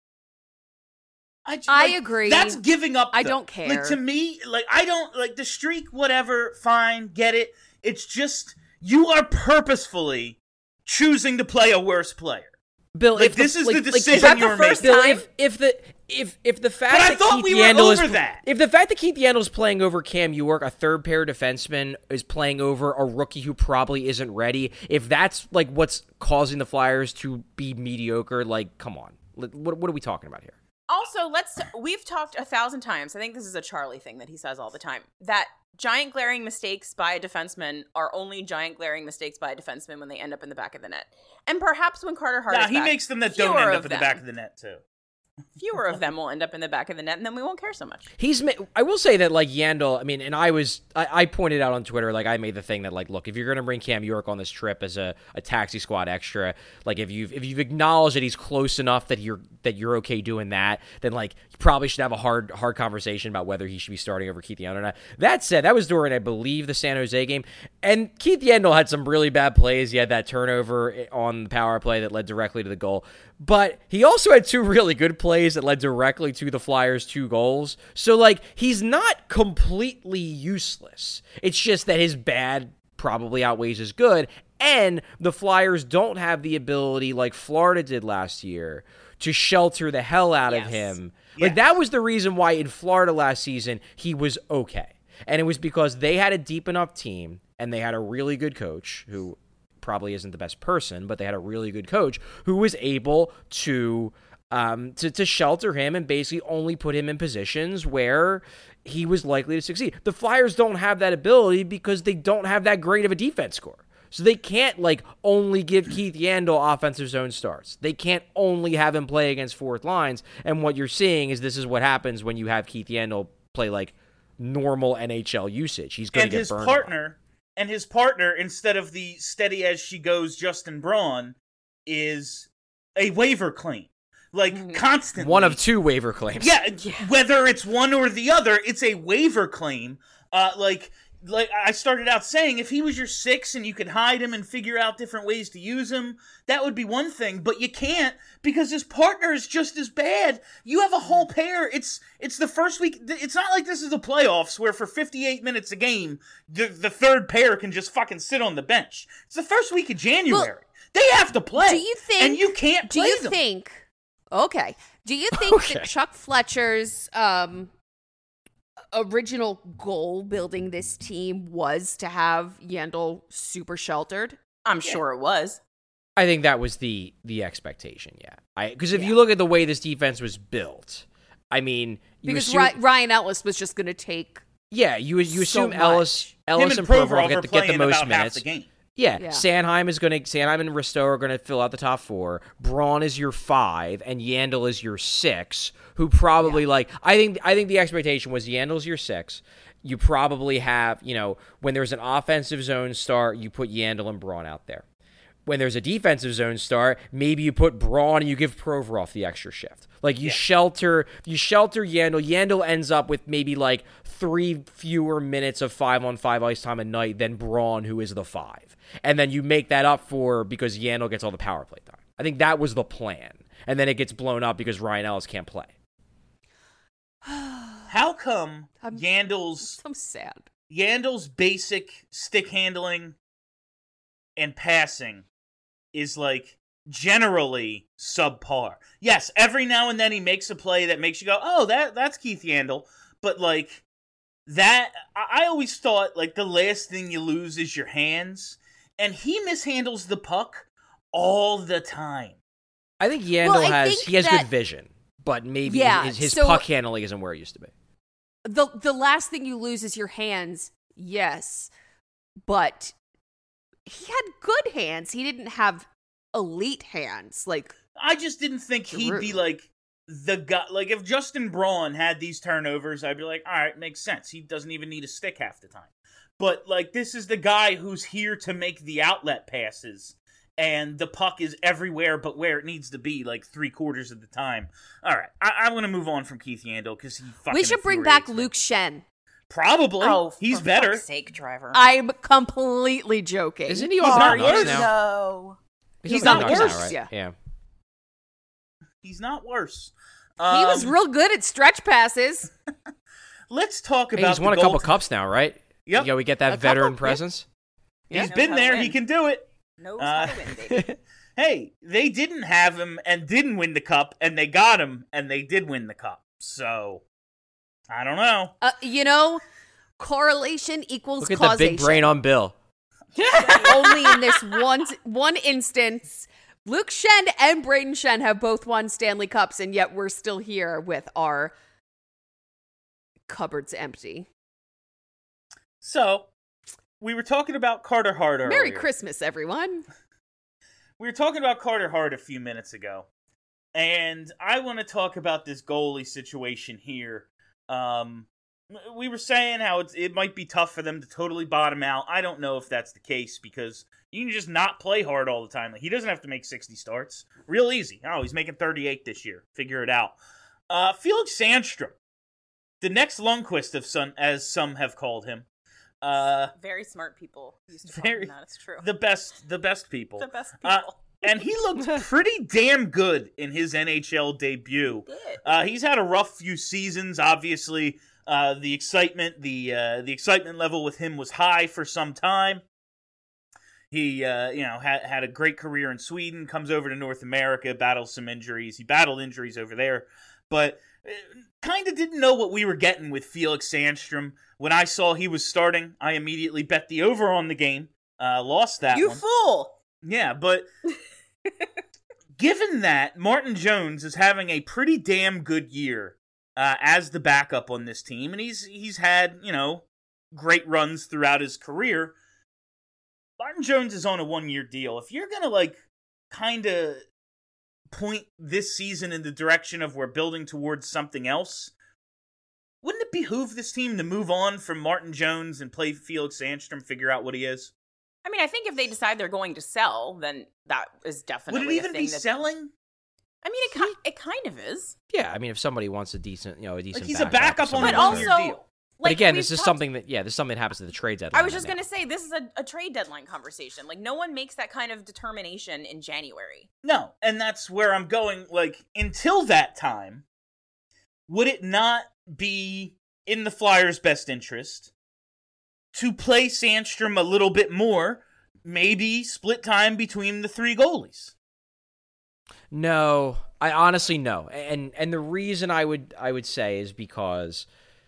Speaker 4: I, just,
Speaker 6: I
Speaker 4: like,
Speaker 6: agree.
Speaker 4: That's giving up.
Speaker 6: I
Speaker 4: though.
Speaker 6: don't care.
Speaker 4: Like, to me, like, I don't, like, the streak, whatever, fine, get it. It's just, you are purposefully choosing to play a worse player.
Speaker 7: Bill,
Speaker 4: like,
Speaker 7: if
Speaker 4: this
Speaker 7: the,
Speaker 4: is
Speaker 7: like,
Speaker 4: the decision
Speaker 7: like, is that
Speaker 4: you're
Speaker 7: the first
Speaker 4: making.
Speaker 7: Bill, if, if the if if the fact
Speaker 4: But I
Speaker 7: that
Speaker 4: thought
Speaker 7: Keith
Speaker 4: we were
Speaker 7: Yandle
Speaker 4: over
Speaker 7: is
Speaker 4: that.
Speaker 7: if the fact that Keith Yandle is playing over Cam York, a third pair defenseman, is playing over a rookie who probably isn't ready. If that's like what's causing the Flyers to be mediocre, like, come on, what what are we talking about here?
Speaker 5: Also, let's we've talked a thousand times. I think this is a Charlie thing that he says all the time. That giant glaring mistakes by a defenseman are only giant glaring mistakes by a defenseman when they end up in the back of the net. And perhaps when Carter Hart
Speaker 4: Nah,
Speaker 5: is
Speaker 4: he
Speaker 5: back,
Speaker 4: makes them that don't end up in
Speaker 5: them,
Speaker 4: the back of the net, too.
Speaker 5: Fewer of them will end up in the back of the net, and then we won't care so much.
Speaker 7: He's. I will say that, like, Yandle, I mean, and I was, I, I pointed out on Twitter, like, I made the thing that, like, look, if you're going to bring Cam York on this trip as a, a taxi squad extra, like, if you've if you've acknowledged that he's close enough that you're that you're okay doing that, then, like, you probably should have a hard hard conversation about whether he should be starting over Keith Yandle or not. That said, that was during, I believe, the San Jose game, and Keith Yandle had some really bad plays. He had that turnover on the power play that led directly to the goal, but he also had two really good plays that led directly to the Flyers' two goals. So, like, he's not completely useless. It's just that his bad probably outweighs his good, and the Flyers don't have the ability, like Florida did last year, to shelter the hell out
Speaker 5: yes.
Speaker 7: of him.
Speaker 4: Yes.
Speaker 7: Like, that was the reason why in Florida last season he was okay. And it was because they had a deep enough team, and they had a really good coach who probably isn't the best person, but they had a really good coach who was able to um, to, to shelter him and basically only put him in positions where he was likely to succeed. The Flyers don't have that ability because they don't have that great of a defense score. So they can't, like, only give Keith Yandle offensive zone starts. They can't only have him play against fourth lines. And what you're seeing is this is what happens when you have Keith Yandle play, like, normal N H L usage. He's going to get burned.
Speaker 4: And his partner, and his partner, instead of the steady as she goes Justin Braun, is a waiver claim. Like, mm-hmm. constantly.
Speaker 7: One of two waiver claims.
Speaker 4: Yeah, yeah, whether it's one or the other, it's a waiver claim. Uh, like, like I started out saying, if he was your six and you could hide him and figure out different ways to use him, that would be one thing. But you can't because his partner is just as bad. You have a whole pair. It's it's the first week. It's not like this is the playoffs where for fifty-eight minutes a game, the, the third pair can just fucking sit on the bench. It's the first week of January. Well, they have to play.
Speaker 6: Do you think?
Speaker 4: And you can't play
Speaker 6: Do you
Speaker 4: them.
Speaker 6: think? Okay. Do you think
Speaker 7: okay.
Speaker 6: that Chuck Fletcher's um, original goal building this team was to have Yandle super sheltered?
Speaker 5: I'm yeah. sure it was.
Speaker 7: I think that was the the expectation, yeah. I Because if
Speaker 6: yeah.
Speaker 7: you look at the way this defense was built, I mean... You
Speaker 6: because
Speaker 7: assume,
Speaker 6: Ryan Ellis was just going to take
Speaker 7: Yeah, you you
Speaker 6: so
Speaker 7: assume Ellis, Ellis
Speaker 4: and
Speaker 7: and Provorov
Speaker 4: Provorov
Speaker 7: get, to get the most
Speaker 4: about
Speaker 7: minutes.
Speaker 4: Half the game.
Speaker 7: Yeah,
Speaker 6: yeah,
Speaker 7: Sanheim is going to Sanheim and Risto are going to fill out the top four. Braun is your five, and Yandle is your six. Who probably yeah. like I think I think the expectation was Yandel's your six. You probably have you know when there's an offensive zone start, you put Yandle and Braun out there. When there's a defensive zone start, maybe you put Braun and you give Provorov the extra shift. Like you yeah. shelter, you shelter Yandle. Yandle ends up with maybe like three fewer minutes of five on five ice time a night than Braun, who is the five. And then you make that up for because Yandle gets all the power play time. I think that was the plan. And then it gets blown up because Ryan Ellis can't play.
Speaker 4: How come I'm, Yandle's
Speaker 6: I'm sad.
Speaker 4: Yandle's basic stick handling and passing is like generally subpar. Yes, every now and then he makes a play that makes you go, "Oh, that that's Keith Yandle." But like that, I always thought like the last thing you lose is your hands. and he mishandles the puck all the time.
Speaker 7: I think Yandel
Speaker 6: Well, I
Speaker 7: has
Speaker 6: think
Speaker 7: he has
Speaker 6: that-
Speaker 7: good vision, but maybe
Speaker 6: Yeah,
Speaker 7: his, his
Speaker 6: so-
Speaker 7: puck handling isn't where it used to be.
Speaker 6: The the last thing you lose is your hands, yes. But he had good hands. He didn't have elite hands. Like
Speaker 4: I just didn't think he'd be
Speaker 6: Giroux.
Speaker 4: like the guy. Like if Justin Braun had these turnovers, I'd be like, all right, makes sense. He doesn't even need a stick half the time. But like this is the guy who's here to make the outlet passes. And the puck is everywhere but where it needs to be, like three quarters of the time. All right, I, I want to move on from Keith Yandel because he fucking
Speaker 6: we should bring back
Speaker 4: infuriates me.
Speaker 6: Luke Shen.
Speaker 4: Probably.
Speaker 5: Oh,
Speaker 4: he's
Speaker 5: for
Speaker 4: better.
Speaker 5: fuck's sake, Driver.
Speaker 6: I'm completely joking.
Speaker 7: Isn't he
Speaker 4: He's
Speaker 7: on
Speaker 4: not
Speaker 7: the
Speaker 4: worse.
Speaker 7: Canucks now?
Speaker 5: No.
Speaker 4: He's
Speaker 7: on the
Speaker 4: not
Speaker 7: Canucks
Speaker 4: worse.
Speaker 7: now, right?
Speaker 6: Yeah.
Speaker 7: yeah.
Speaker 4: He's not worse.
Speaker 6: He was
Speaker 4: Um,
Speaker 6: real good at stretch passes.
Speaker 4: Let's talk
Speaker 7: Hey,
Speaker 4: about.
Speaker 7: he's
Speaker 4: the
Speaker 7: won a couple
Speaker 4: gold-
Speaker 7: cups now, right?
Speaker 4: Yep.
Speaker 7: Yeah, we get that
Speaker 6: A
Speaker 7: veteran
Speaker 6: couple, yeah.
Speaker 7: presence.
Speaker 4: He's
Speaker 5: Knows
Speaker 4: been
Speaker 5: how to
Speaker 4: there.
Speaker 5: win.
Speaker 4: He can do it.
Speaker 5: Knows
Speaker 4: Uh,
Speaker 5: how to win, baby.
Speaker 4: Hey, they didn't have him and didn't win the cup, and they got him and they did win the cup. So, I don't know.
Speaker 6: Uh, you know, correlation equals
Speaker 7: Look at
Speaker 6: causation.
Speaker 7: the big brain on Bill.
Speaker 6: Only in this one one instance, Luke Shen and Braden Shen have both won Stanley Cups, and yet we're still here with our cupboards empty.
Speaker 4: So, we were talking about Carter Hart earlier.
Speaker 6: Merry Christmas, everyone.
Speaker 4: We were talking about Carter Hart a few minutes ago, and I want to talk about this goalie situation here. Um, we were saying how it's, it might be tough for them to totally bottom out. I don't know if that's the case because you can just not play hard all the time. Like, he doesn't have to make sixty starts. Real easy. Oh, he's making thirty-eight this year. Figure it out. Uh, Felix Sandstrom, the next Lundqvist, of some, as some have called him. Uh,
Speaker 5: Very smart people used to call
Speaker 4: very,
Speaker 5: him that. It's true.
Speaker 4: the best, the best people.
Speaker 5: The best
Speaker 4: Uh,
Speaker 5: people.
Speaker 4: and he looked pretty damn good in his N H L debut.
Speaker 5: He did.
Speaker 4: Uh, he's had a rough few seasons. Obviously, uh, the excitement, the uh, the excitement level with him was high for some time. He, uh, you know, had had a great career in Sweden. Comes over to North America, battles some injuries. He battled injuries over there, but uh, kind of didn't know what we were getting with Felix Sandstrom. When I saw he was starting, I immediately bet the over on the game. Uh, lost that
Speaker 5: You
Speaker 4: one.
Speaker 5: fool!
Speaker 4: Yeah, but given that Martin Jones is having a pretty damn good year uh, as the backup on this team, and he's he's had, you know, great runs throughout his career, Martin Jones is on a one-year deal. If you're going to, like, kind of point this season in the direction of we're building towards something else, wouldn't it behoove this team to move on from Martin Jones and play Felix Sandstrom, figure out what he is?
Speaker 5: I mean, I think if they decide they're going to sell, then that is definitely
Speaker 4: Would it even
Speaker 5: a thing
Speaker 4: be
Speaker 5: that,
Speaker 4: selling?
Speaker 5: I mean, it, ki- it kind of is.
Speaker 7: Yeah, I mean, if somebody wants a decent, you know, a decent
Speaker 4: Like, he's a
Speaker 7: backup,
Speaker 4: backup on
Speaker 7: somebody
Speaker 4: a
Speaker 5: But
Speaker 7: wants-
Speaker 4: one-year
Speaker 5: also,
Speaker 4: deal.
Speaker 7: But
Speaker 5: like,
Speaker 7: again,
Speaker 5: we've
Speaker 7: this is
Speaker 5: talked-
Speaker 7: something that, yeah, this is something that happens at the trade deadline.
Speaker 5: I was just
Speaker 7: right
Speaker 5: going to say, this is a, a trade deadline conversation. Like, no one makes that kind of determination in January.
Speaker 4: No, and that's where I'm going. Like, until that time, would it not be in the Flyers' best interest to play Sandstrom a little bit more, maybe split time between the three goalies?
Speaker 7: No, I honestly no, and and the reason I would I would say is because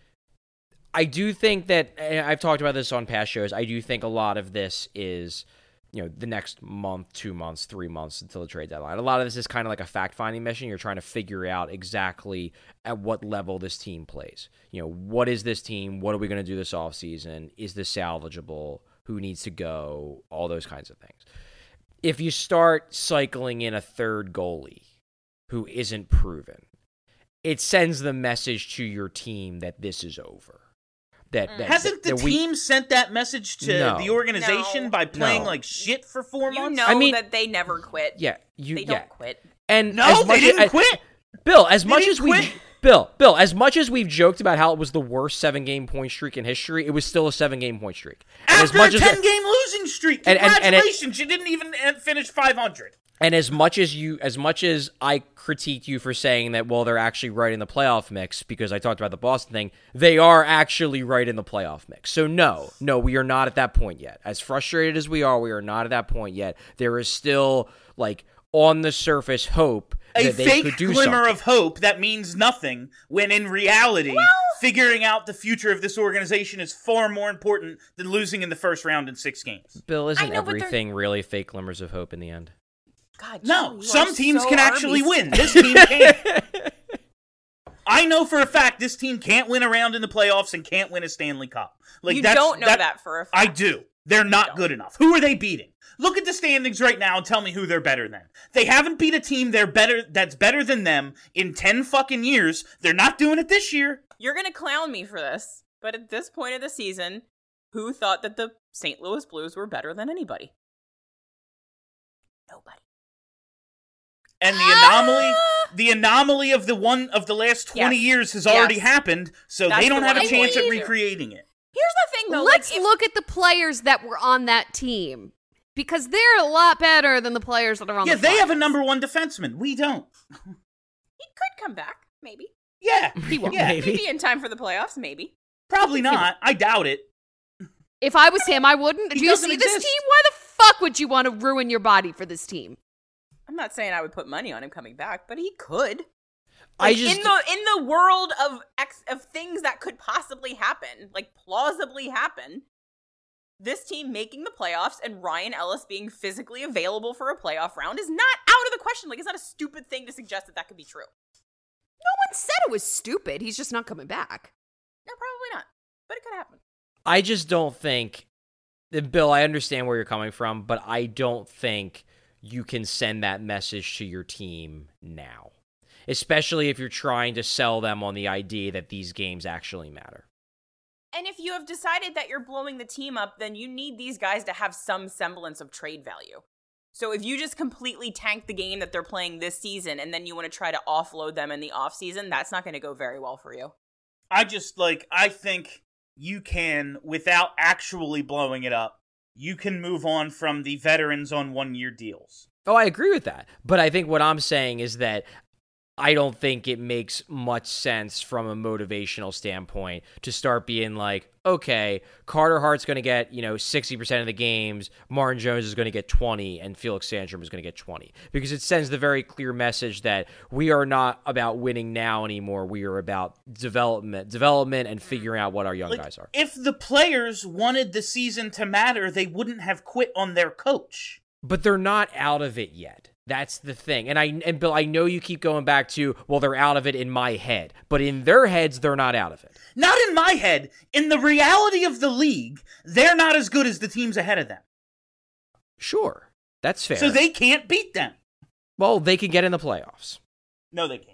Speaker 7: I do think that, and I've talked about this on past shows, I do think a lot of this is, you know, the next month, two months, three months until the trade deadline. A lot of this is kind of like a fact-finding mission. You're trying to figure out exactly at what level this team plays. You know, what is this team? What are we going to do this offseason? Is this salvageable? Who needs to go? All those kinds of things. If you start cycling in a third goalie who isn't proven, it sends the message to your team that this is over. That, that
Speaker 4: Hasn't
Speaker 7: that,
Speaker 4: the
Speaker 7: that
Speaker 4: team
Speaker 7: we,
Speaker 4: sent that message to
Speaker 7: No.
Speaker 4: the organization
Speaker 5: No.
Speaker 4: by playing
Speaker 7: No.
Speaker 4: like shit for four
Speaker 5: You
Speaker 4: months?
Speaker 5: know
Speaker 7: I mean-
Speaker 5: that they never quit.
Speaker 7: Yeah, you
Speaker 5: They
Speaker 7: yeah.
Speaker 5: don't quit.
Speaker 7: And
Speaker 4: No,
Speaker 7: as
Speaker 4: they
Speaker 7: much
Speaker 4: didn't
Speaker 7: as,
Speaker 4: quit.
Speaker 7: Bill, as
Speaker 4: They
Speaker 7: much
Speaker 4: didn't
Speaker 7: as we
Speaker 4: quit.
Speaker 7: Bill, Bill, as much as we've joked about how it was the worst seven-game point streak in history, it was still a seven-game point streak. And
Speaker 4: After
Speaker 7: as much
Speaker 4: a
Speaker 7: as
Speaker 4: ten-game losing streak,
Speaker 7: And- and- and it-
Speaker 4: congratulations, you didn't even uh, finish five hundred.
Speaker 7: And as much as you, as much as I critiqued you for saying that, well, they're actually right in the playoff mix because I talked about the Boston thing, they are actually right in the playoff mix. So no, no, we are not at that point yet. As frustrated as we are, we are not at that point yet. There is still, like, on the surface hope
Speaker 4: a
Speaker 7: that they could
Speaker 4: fake
Speaker 7: do
Speaker 4: glimmer
Speaker 7: something.
Speaker 4: of hope that means nothing, when in reality,
Speaker 5: Well-
Speaker 4: figuring out the future of this organization is far more important than losing in the first round in six games.
Speaker 7: Bill, isn't
Speaker 5: know, but they're-
Speaker 7: everything really fake glimmers of hope in the end?
Speaker 5: God,
Speaker 4: No,
Speaker 5: Joe, you
Speaker 4: some
Speaker 5: are
Speaker 4: teams
Speaker 5: so
Speaker 4: can actually
Speaker 5: Arby's.
Speaker 4: win. This team can't. I know for a fact this team can't win a round in the playoffs and can't win a Stanley Cup. Like
Speaker 5: You
Speaker 4: that's,
Speaker 5: don't know that for a fact.
Speaker 4: I do. They're not
Speaker 5: don't.
Speaker 4: good enough. Who are they beating? Look at the standings right now and tell me who they're better than. They haven't beat a team they're better that's better than them in ten fucking years. They're not doing it this year.
Speaker 5: You're going to clown me for this, but at this point of the season, who thought that the Saint Louis Blues were better than anybody? Nobody.
Speaker 4: And the anomaly, the anomaly of the one of the last twenty
Speaker 5: Yes.
Speaker 4: years has already
Speaker 5: Yes.
Speaker 4: happened, so
Speaker 5: That's
Speaker 4: they don't
Speaker 5: the
Speaker 4: have a
Speaker 5: one I
Speaker 4: chance at
Speaker 5: believe.
Speaker 4: recreating it.
Speaker 5: Here's the thing, though.
Speaker 6: Let's
Speaker 5: like, if-
Speaker 6: look at the players that were on that team because they're a lot better than the players that are on
Speaker 4: Yeah,
Speaker 6: the
Speaker 4: they have a
Speaker 6: Flyers.
Speaker 4: number one defenseman. We don't.
Speaker 5: He could come back, maybe.
Speaker 4: Yeah,
Speaker 6: He won't.
Speaker 4: yeah,
Speaker 7: Maybe.
Speaker 5: Maybe in time for the playoffs, maybe.
Speaker 4: probably not. I doubt it.
Speaker 6: If I was him, I wouldn't.
Speaker 4: He
Speaker 6: Do you
Speaker 4: doesn't
Speaker 6: see this
Speaker 4: exist.
Speaker 6: team? Why the fuck would you want to ruin your body for this team?
Speaker 5: I'm not saying I would put money on him coming back, but he could.
Speaker 7: I
Speaker 5: Like,
Speaker 7: just
Speaker 5: in the in the world of ex, of things that could possibly happen, like plausibly happen, this team making the playoffs and Ryan Ellis being physically available for a playoff round is not out of the question. Like, it's not a stupid thing to suggest that that could be true.
Speaker 6: No one said it was stupid. He's just not coming back.
Speaker 5: No, probably not, but it could happen.
Speaker 7: I just don't think, Bill, I understand where you're coming from, but I don't think you can send that message to your team now, especially if you're trying to sell them on the idea that these games actually matter.
Speaker 5: And if you have decided that you're blowing the team up, then you need these guys to have some semblance of trade value. So if you just completely tank the game that they're playing this season and then you want to try to offload them in the offseason, that's not going to go very well for you.
Speaker 4: I just, like, I think you can, without actually blowing it up, you can move on from the veterans on one-year deals.
Speaker 7: Oh, I agree with that. But I think what I'm saying is that I don't think it makes much sense from a motivational standpoint to start being like, okay, Carter Hart's going to get, you know, sixty percent of the games, Martin Jones is going to get twenty, and Felix Sandstrom is going to get twenty. Because it sends the very clear message that we are not about winning now anymore. We are about development, development and figuring out what our young
Speaker 4: Like,
Speaker 7: guys are.
Speaker 4: if the players wanted the season to matter, they wouldn't have quit on their coach.
Speaker 7: But they're not out of it yet. That's the thing. And I and Bill, I know you keep going back to, well, they're out of it in my head. But in their heads, they're not out of it.
Speaker 4: Not in my head. In the reality of the league, they're not as good as the teams ahead of them.
Speaker 7: Sure. That's fair.
Speaker 4: So they can't beat them.
Speaker 7: Well, they can get in the playoffs.
Speaker 4: No, they can't.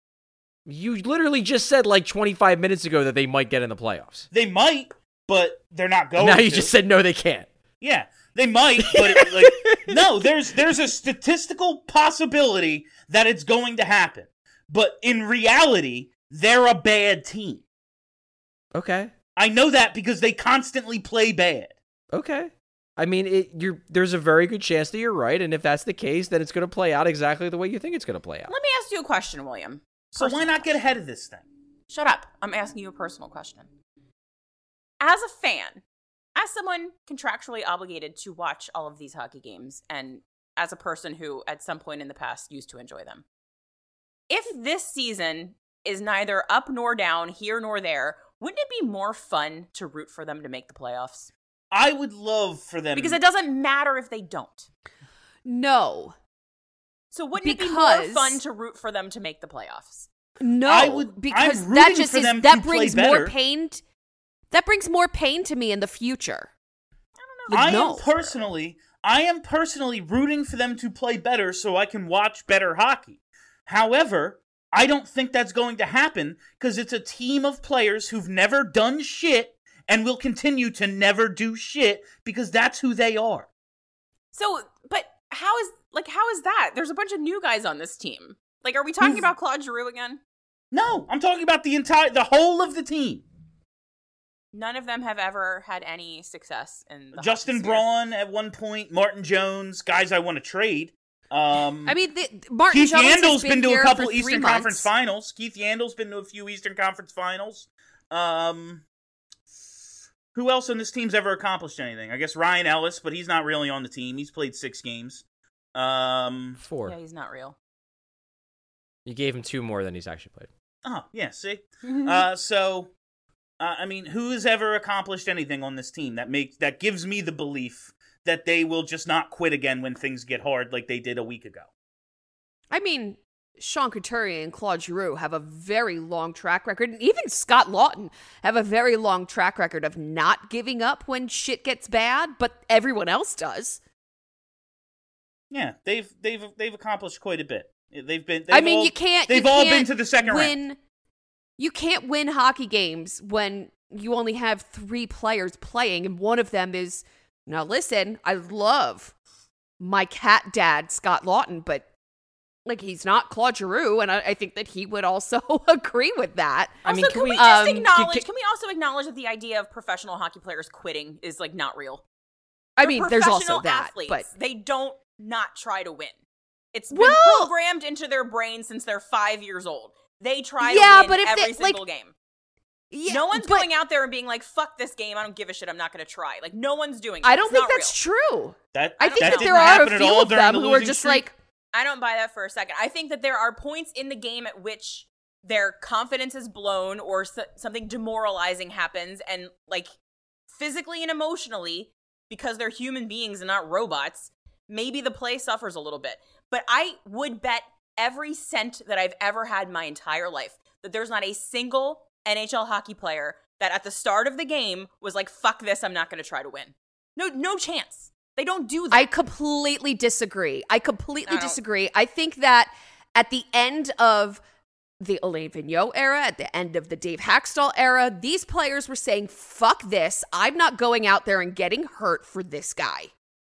Speaker 7: You literally just said like twenty-five minutes ago that they might get in the playoffs.
Speaker 4: They might, but they're not going
Speaker 7: now
Speaker 4: to.
Speaker 7: you just said no, they can't.
Speaker 4: Yeah, they might, but it, like, no, there's there's a statistical possibility that it's going to happen. But in reality, they're a bad team.
Speaker 7: Okay.
Speaker 4: I know that because they constantly play bad.
Speaker 7: Okay. I mean, it, you're, there's a very good chance that you're right, and if that's the case, then it's going to play out exactly the way you think it's going to play out.
Speaker 5: Let me ask you a question, William.
Speaker 4: So why not get ahead of this thing?
Speaker 5: Shut up. I'm asking you a personal question. As a fan, as someone contractually obligated to watch all of these hockey games, and as a person who at some point in the past used to enjoy them, if this season is neither up nor down, here nor there, wouldn't it be more fun to root for them to make the playoffs?
Speaker 4: I would love for them...
Speaker 5: Because it doesn't matter if they don't.
Speaker 6: No.
Speaker 5: So wouldn't it be
Speaker 6: Because-
Speaker 5: more fun to root for them to make the playoffs?
Speaker 6: No,
Speaker 4: I would-
Speaker 6: because
Speaker 4: I'm
Speaker 6: that
Speaker 4: rooting
Speaker 6: just
Speaker 4: for
Speaker 6: is
Speaker 4: them
Speaker 6: that
Speaker 4: to play
Speaker 6: brings
Speaker 4: better.
Speaker 6: more pain. t- that brings more pain to me in the future.
Speaker 5: I
Speaker 4: I
Speaker 5: don't know.
Speaker 6: no.
Speaker 4: am personally, I am personally rooting for them to play better so I can watch better hockey. However, I don't think that's going to happen because it's a team of players who've never done shit and will continue to never do shit because that's who they are.
Speaker 5: So, but how is, like, how is that? There's a bunch of new guys on this team. Like, are we talking
Speaker 4: Who've-
Speaker 5: about Claude Giroux again?
Speaker 4: No, I'm talking about the entire, the whole of the team.
Speaker 5: None of them have ever had any success in the
Speaker 4: Justin
Speaker 5: hockey sphere.
Speaker 4: Braun at one point, Martin Jones, guys I want to trade. Um,
Speaker 6: I mean, the, Martin
Speaker 4: Keith
Speaker 6: Jones has
Speaker 4: Yandel's
Speaker 6: been,
Speaker 4: been to
Speaker 6: here
Speaker 4: a couple
Speaker 6: for three
Speaker 4: Eastern
Speaker 6: months.
Speaker 4: Conference finals. Keith Yandel's been to a few Eastern Conference finals. Um, who else on this team's ever accomplished anything? I guess Ryan Ellis, but he's not really on the team. He's played six games. Um,
Speaker 7: Four.
Speaker 5: Yeah, he's not real.
Speaker 7: You gave him two more than he's actually played.
Speaker 4: Oh, yeah, see? uh, so, uh, I mean, who has ever accomplished anything on this team that makes that gives me the belief that they will just not quit again when things get hard like they did a week ago?
Speaker 6: I mean, Sean Couturier and Claude Giroux have a very long track record, and even Scott Lawton have a very long track record of not giving up when shit gets bad, but everyone else does.
Speaker 4: Yeah, they've they've they've accomplished quite a bit. They've been. They've
Speaker 6: I mean,
Speaker 4: all,
Speaker 6: you can't.
Speaker 4: They've
Speaker 6: you
Speaker 4: all
Speaker 6: can't
Speaker 4: been to the second
Speaker 6: win,
Speaker 4: round.
Speaker 6: You can't win hockey games when you only have three players playing, and one of them is. Now, listen, I love my cat dad, Scott Lawton, but like he's not Claude Giroux, and I, I think that he would also agree with that.
Speaker 5: Also,
Speaker 7: I mean,
Speaker 5: can,
Speaker 7: can
Speaker 5: we,
Speaker 7: we-
Speaker 5: just
Speaker 6: um,
Speaker 5: acknowledge?
Speaker 7: can-
Speaker 5: Can we also acknowledge that the idea of professional hockey players quitting is like not real?
Speaker 6: I
Speaker 5: They're
Speaker 6: mean, there's also
Speaker 5: professional
Speaker 6: that,
Speaker 5: athletes.
Speaker 6: but
Speaker 5: They don't not try to win. It's been
Speaker 6: Well-
Speaker 5: programmed into their brain since they're five years old. They try
Speaker 6: Yeah,
Speaker 5: to win
Speaker 6: but if
Speaker 5: every
Speaker 6: they- like-
Speaker 5: single game.
Speaker 6: yeah,
Speaker 5: No one's
Speaker 6: but
Speaker 5: going out there and being like, "Fuck this game. I don't give a shit. I'm not going to try." Like no one's doing. It.
Speaker 6: I don't
Speaker 5: It's
Speaker 6: think
Speaker 5: not
Speaker 6: that's
Speaker 5: real.
Speaker 6: true.
Speaker 4: That
Speaker 6: I think
Speaker 4: that
Speaker 6: that
Speaker 4: didn't
Speaker 6: there are
Speaker 4: happen
Speaker 6: a
Speaker 4: at
Speaker 6: few
Speaker 4: all
Speaker 6: of
Speaker 4: during
Speaker 6: them
Speaker 4: the
Speaker 6: who are
Speaker 4: losing
Speaker 6: just
Speaker 4: streak.
Speaker 6: like,
Speaker 5: I don't buy that for a second. I think that there are points in the game at which their confidence is blown or so- something demoralizing happens, and like physically and emotionally, because they're human beings and not robots, maybe the play suffers a little bit. But I would bet every cent that I've ever had in my entire life that there's not a single N H L hockey player that at the start of the game was like, "Fuck this, I'm not going to try to win." No, no chance. They don't do that.
Speaker 6: I completely disagree. I completely
Speaker 5: I don't-
Speaker 6: disagree. I think that at the end of the Alain Vigneault era, at the end of the Dave Hackstall era, these players were saying, fuck this. I'm not going out there and getting hurt for this guy.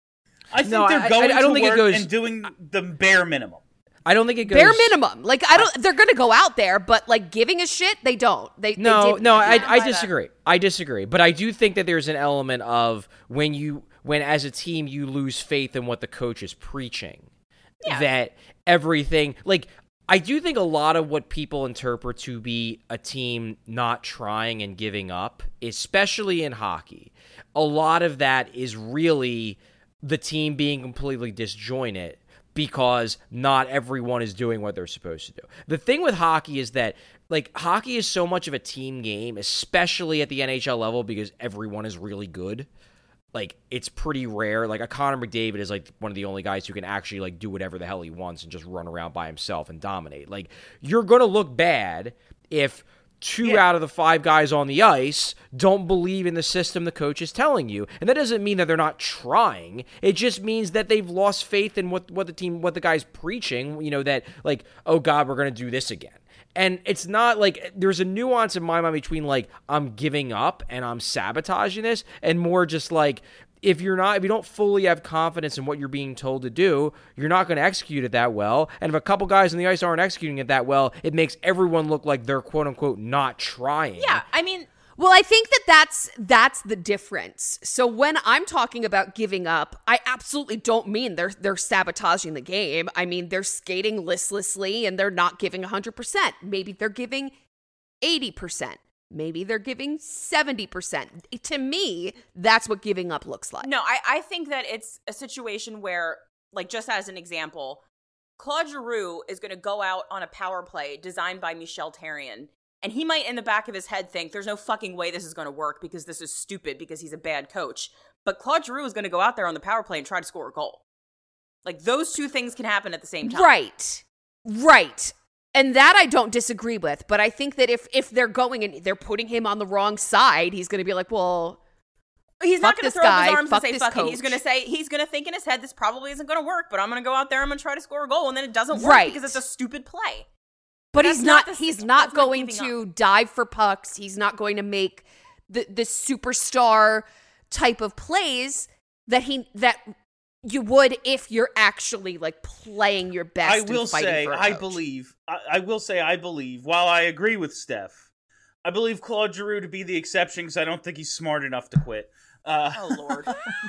Speaker 4: I think
Speaker 7: No,
Speaker 4: they're
Speaker 7: I-
Speaker 4: going
Speaker 7: I- I don't
Speaker 4: to
Speaker 7: think it
Speaker 4: work
Speaker 7: goes-
Speaker 4: and doing the bare minimum.
Speaker 7: I don't think it goes
Speaker 6: Bare minimum. Like, I don't, they're going to go out there, but like giving a shit, they don't. They,
Speaker 7: No,
Speaker 6: they didn't.
Speaker 7: no, I,
Speaker 5: can't
Speaker 7: I
Speaker 5: buy that.
Speaker 7: disagree. I disagree. But I do think that there's an element of when you, when as a team you lose faith in what the coach is preaching,
Speaker 5: Yeah.
Speaker 7: that everything, like, I do think a lot of what people interpret to be a team not trying and giving up, especially in hockey, a lot of that is really the team being completely disjointed because not everyone is doing what they're supposed to do. The thing with hockey is that, like, hockey is so much of a team game, especially at the N H L level, because everyone is really good. Like, it's pretty rare. Like, a Connor McDavid is, like, one of the only guys who can actually, like, do whatever the hell he wants and just run around by himself and dominate. Like, you're going to look bad if two
Speaker 4: Yeah.
Speaker 7: out of the five guys on the ice don't believe in the system the coach is telling you. And that doesn't mean that they're not trying. It just means that they've lost faith in what, what the team, what the guy's preaching, you know, that, like, oh, God, we're going to do this again. And it's not like there's a nuance in my mind between like I'm giving up and I'm sabotaging this and more just like if you're not, if you don't fully have confidence in what you're being told to do, you're not going to execute it that well. And if a couple guys on the ice aren't executing it that well, it makes everyone look like they're quote unquote not trying.
Speaker 5: Yeah, I mean,
Speaker 6: Well, I think that that's that's the difference. So when I'm talking about giving up, I absolutely don't mean they're they're sabotaging the game. I mean they're skating listlessly and they're not giving one hundred percent. Maybe they're giving eighty percent. Maybe they're giving seventy percent. To me, that's what giving up looks like.
Speaker 5: no, I, I think that it's a situation where, like, just as an example, Claude Giroux is going to go out on a power play designed by Michel Therrien, and he might in the back of his head think, there's no fucking way this is going to work because this is stupid because he's a bad coach. But Claude Giroux is going to go out there on the power play and try to score a goal. Like, those two things can happen at the same time.
Speaker 6: Right. Right. And that I don't disagree with, but I think that if if they're going and they're putting him on the wrong side, he's going to be like, well,
Speaker 5: He's
Speaker 6: fuck
Speaker 5: not going to
Speaker 6: this
Speaker 5: throw up his
Speaker 6: guy,
Speaker 5: arms
Speaker 6: fuck
Speaker 5: and say
Speaker 6: this
Speaker 5: fuck it. He's
Speaker 6: coach.
Speaker 5: going to say, he's going to think in his head, this probably isn't going to work, but I'm going to go out there, I'm going to try to score a goal, and then it doesn't work
Speaker 6: Right.
Speaker 5: because it's a stupid play.
Speaker 6: But
Speaker 5: That's
Speaker 6: he's
Speaker 5: not
Speaker 6: not,
Speaker 5: the-
Speaker 6: he's
Speaker 5: that's
Speaker 6: not
Speaker 5: not
Speaker 6: going
Speaker 5: giving
Speaker 6: to dive for pucks. He's not going to make the the superstar type of plays that he that you would if you're actually like playing your best.
Speaker 4: I will
Speaker 6: and fighting
Speaker 4: say,
Speaker 6: for a
Speaker 4: I
Speaker 6: coach.
Speaker 4: believe, I, I will say, I believe, while I agree with Steph, I believe Claude Giroux to be the exception because I don't think he's smart enough to quit. Uh,
Speaker 5: Oh, Lord.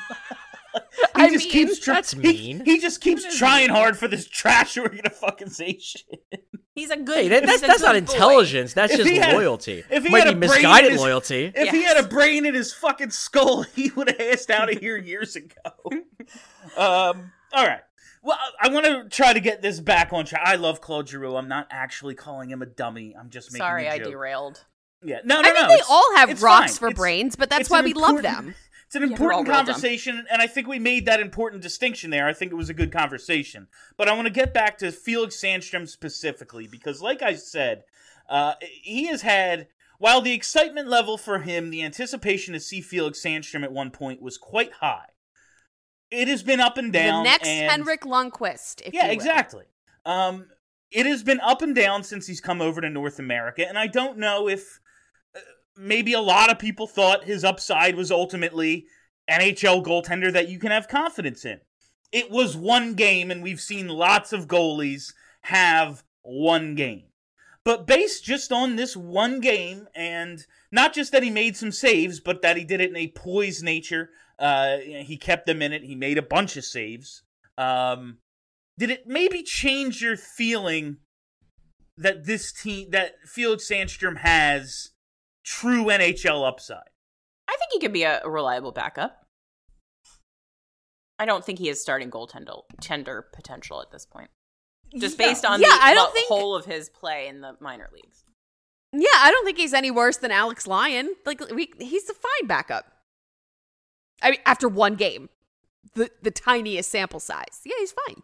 Speaker 4: he
Speaker 6: I
Speaker 4: just
Speaker 6: mean,
Speaker 4: keeps trying.
Speaker 7: that's
Speaker 4: He,
Speaker 7: mean.
Speaker 4: he just keeps trying hard for this trash who are gonna fucking say shit.
Speaker 5: He's a good
Speaker 7: Hey, that,
Speaker 5: he's
Speaker 7: that's
Speaker 5: a
Speaker 7: that's not
Speaker 5: good boy.
Speaker 7: intelligence. That's
Speaker 4: If
Speaker 7: just
Speaker 4: he had-
Speaker 7: loyalty.
Speaker 4: if he
Speaker 7: Might
Speaker 4: had
Speaker 7: be
Speaker 4: a brain in
Speaker 7: misguided
Speaker 4: his-
Speaker 7: loyalty.
Speaker 4: If he had a brain in his fucking skull, he would have asked out of here years ago. um, all right. Well, I want to try to get this back on track. I love Claude Giroux. I'm not actually calling him a dummy. I'm just making
Speaker 5: Sorry,
Speaker 4: a
Speaker 5: I
Speaker 4: joke.
Speaker 5: derailed.
Speaker 4: Yeah, no, no,
Speaker 6: I mean,
Speaker 4: no.
Speaker 6: they
Speaker 4: it's,
Speaker 6: all have
Speaker 4: it's
Speaker 6: rocks
Speaker 4: fine.
Speaker 6: for
Speaker 4: it's,
Speaker 6: brains, but that's
Speaker 4: it's
Speaker 6: why we love them.
Speaker 4: It's an
Speaker 5: Yeah, they're all
Speaker 4: important
Speaker 5: real dumb.
Speaker 4: conversation, and I think we made that important distinction there. I think it was a good conversation. But I want to get back to Felix Sandstrom specifically, because like I said, uh, he has had, while the excitement level for him, the anticipation to see Felix Sandstrom at one point was quite high. It has been up and down.
Speaker 6: The next
Speaker 4: and,
Speaker 6: Henrik Lundqvist, if
Speaker 4: Yeah,
Speaker 6: you will.
Speaker 4: exactly. Um, it has been up and down since he's come over to North America, and I don't know if uh, maybe a lot of people thought his upside was ultimately N H L goaltender that you can have confidence in. It was one game, and we've seen lots of goalies have one game. But based just on this one game, and not just that he made some saves, but that he did it in a poised nature, uh, he kept them in it, he made a bunch of saves, um... did it maybe change your feeling that this team, that Felix Sandstrom has true N H L upside?
Speaker 5: I think he could be a, a reliable backup. I don't think he has starting goaltender tender potential at this point. Just
Speaker 6: Yeah.
Speaker 5: based on
Speaker 6: Yeah,
Speaker 5: the,
Speaker 6: I don't
Speaker 5: the
Speaker 6: think-
Speaker 5: whole of his play in the minor leagues.
Speaker 6: Yeah, I don't think he's any worse than Alex Lyon. Like, we, he's a fine backup. I mean, after one game, the the tiniest sample size. Yeah, he's fine.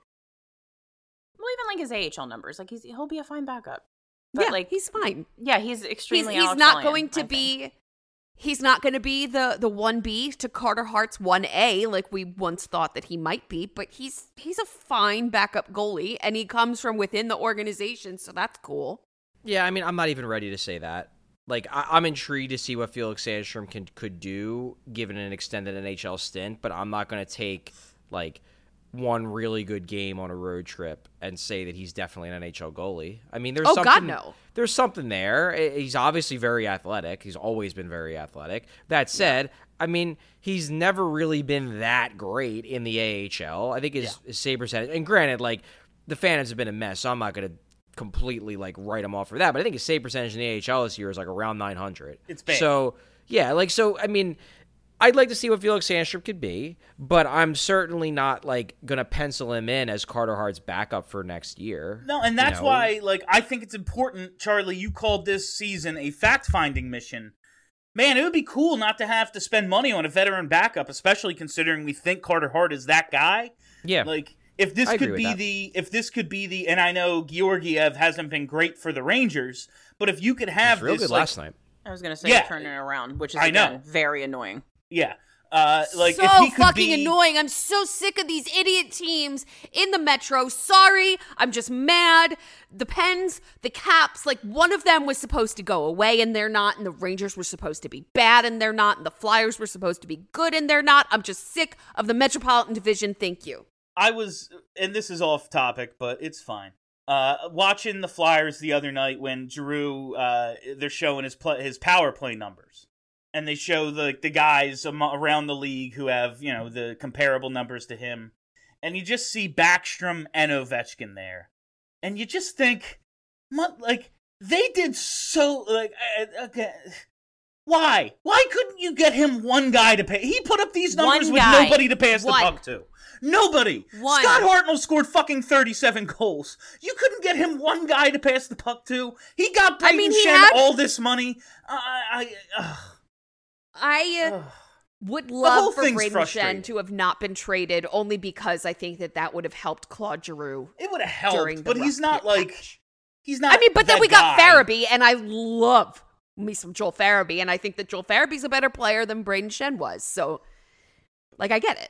Speaker 5: Well, even like his A H L numbers, like he's he'll be a fine backup. But
Speaker 6: yeah,
Speaker 5: like
Speaker 6: he's fine.
Speaker 5: Yeah, he's
Speaker 6: He's,
Speaker 5: extremely.
Speaker 6: he's
Speaker 5: Alex
Speaker 6: not
Speaker 5: Lyon,
Speaker 6: going to
Speaker 5: I
Speaker 6: be.
Speaker 5: think.
Speaker 6: He's not going to be the the one B to Carter Hart's one A like we once thought that he might be. But he's he's a fine backup goalie, and he comes from within the organization, so that's cool.
Speaker 7: Yeah, I mean, I'm not even ready to say that. Like, I- I'm intrigued to see what Felix Sandstrom can could do given an extended N H L stint, but I'm not going to take like one really good game on a road trip and say that he's definitely an N H L goalie. I mean, there's
Speaker 6: Oh,
Speaker 7: something,
Speaker 6: God, no.
Speaker 7: There's something there. He's obviously very athletic. He's always been very athletic. That said, I mean, he's never really been that great in the A H L. I think his,
Speaker 4: Yeah.
Speaker 7: his save percentage, and granted, like, the fans have been a mess, so I'm not going to completely, like, write him off for that, but I think his save percentage in the A H L this year is, like, around nine hundred.
Speaker 4: It's bad.
Speaker 7: So, yeah, like, so, I mean, I'd like to see what Felix Sandstrom could be, but I'm certainly not, like, going to pencil him in as Carter Hart's backup for next year.
Speaker 4: No, and that's
Speaker 7: you know?
Speaker 4: why, like, I think it's important, Charlie, you called this season a fact-finding mission. Man, it would be cool not to have to spend money on a veteran backup, especially considering we think Carter Hart is that guy.
Speaker 7: Yeah.
Speaker 4: Like, if this
Speaker 7: I agree
Speaker 4: could
Speaker 7: with
Speaker 4: be
Speaker 7: that.
Speaker 4: the, if this could be the, and I know Georgiev hasn't been great for the Rangers, but if you could have
Speaker 7: He's real
Speaker 4: this,
Speaker 7: good
Speaker 4: like,
Speaker 7: last night.
Speaker 5: I was gonna say
Speaker 4: Yeah.
Speaker 5: turning it around, which is
Speaker 4: I know.
Speaker 5: again, very annoying.
Speaker 4: yeah, uh, like
Speaker 6: so
Speaker 4: if he could
Speaker 6: fucking
Speaker 4: be,
Speaker 6: annoying. I'm so sick of these idiot teams in the Metro. Sorry, I'm just mad. The Pens, the Caps, like one of them was supposed to go away and they're not, and the Rangers were supposed to be bad and they're not, and the Flyers were supposed to be good and they're not. I'm just sick of the Metropolitan Division. Thank you.
Speaker 4: I was, and this is off topic, but it's fine. Uh, watching the Flyers the other night when Giroux, uh, they're showing his play, his power play numbers, and they show the the guys am- around the league who have, you know, the comparable numbers to him, and you just see Backstrom and Ovechkin there, and you just think, mu- like they did so, like uh, okay. Why? Why couldn't you get him one guy to pay? He put up these numbers
Speaker 5: One
Speaker 4: with
Speaker 5: guy.
Speaker 4: nobody to pass
Speaker 6: One.
Speaker 4: the puck to. Nobody.
Speaker 6: One.
Speaker 4: Scott Hartnell scored fucking thirty-seven goals. You couldn't get him one guy to pass the puck to. He got
Speaker 6: I
Speaker 4: Brayden
Speaker 6: mean, he
Speaker 4: Schenn
Speaker 6: had-
Speaker 4: all this money. I, I, ugh,
Speaker 6: I uh,
Speaker 4: ugh.
Speaker 6: would
Speaker 4: whole
Speaker 6: love for
Speaker 4: thing's
Speaker 6: Braden
Speaker 4: frustrating.
Speaker 6: Shen to have not been traded, only because I think that that would have helped Claude Giroux.
Speaker 4: It would have
Speaker 6: during
Speaker 4: helped,
Speaker 6: the
Speaker 4: but he's
Speaker 6: rough
Speaker 4: not like
Speaker 6: patch.
Speaker 4: he's not.
Speaker 6: I mean, but then
Speaker 4: that
Speaker 6: we got
Speaker 4: guy.
Speaker 6: Farabee, and I love me some Joel Farabee, and I think that Joel Farabee's a better player than Braden Shen was. So, like, I get it.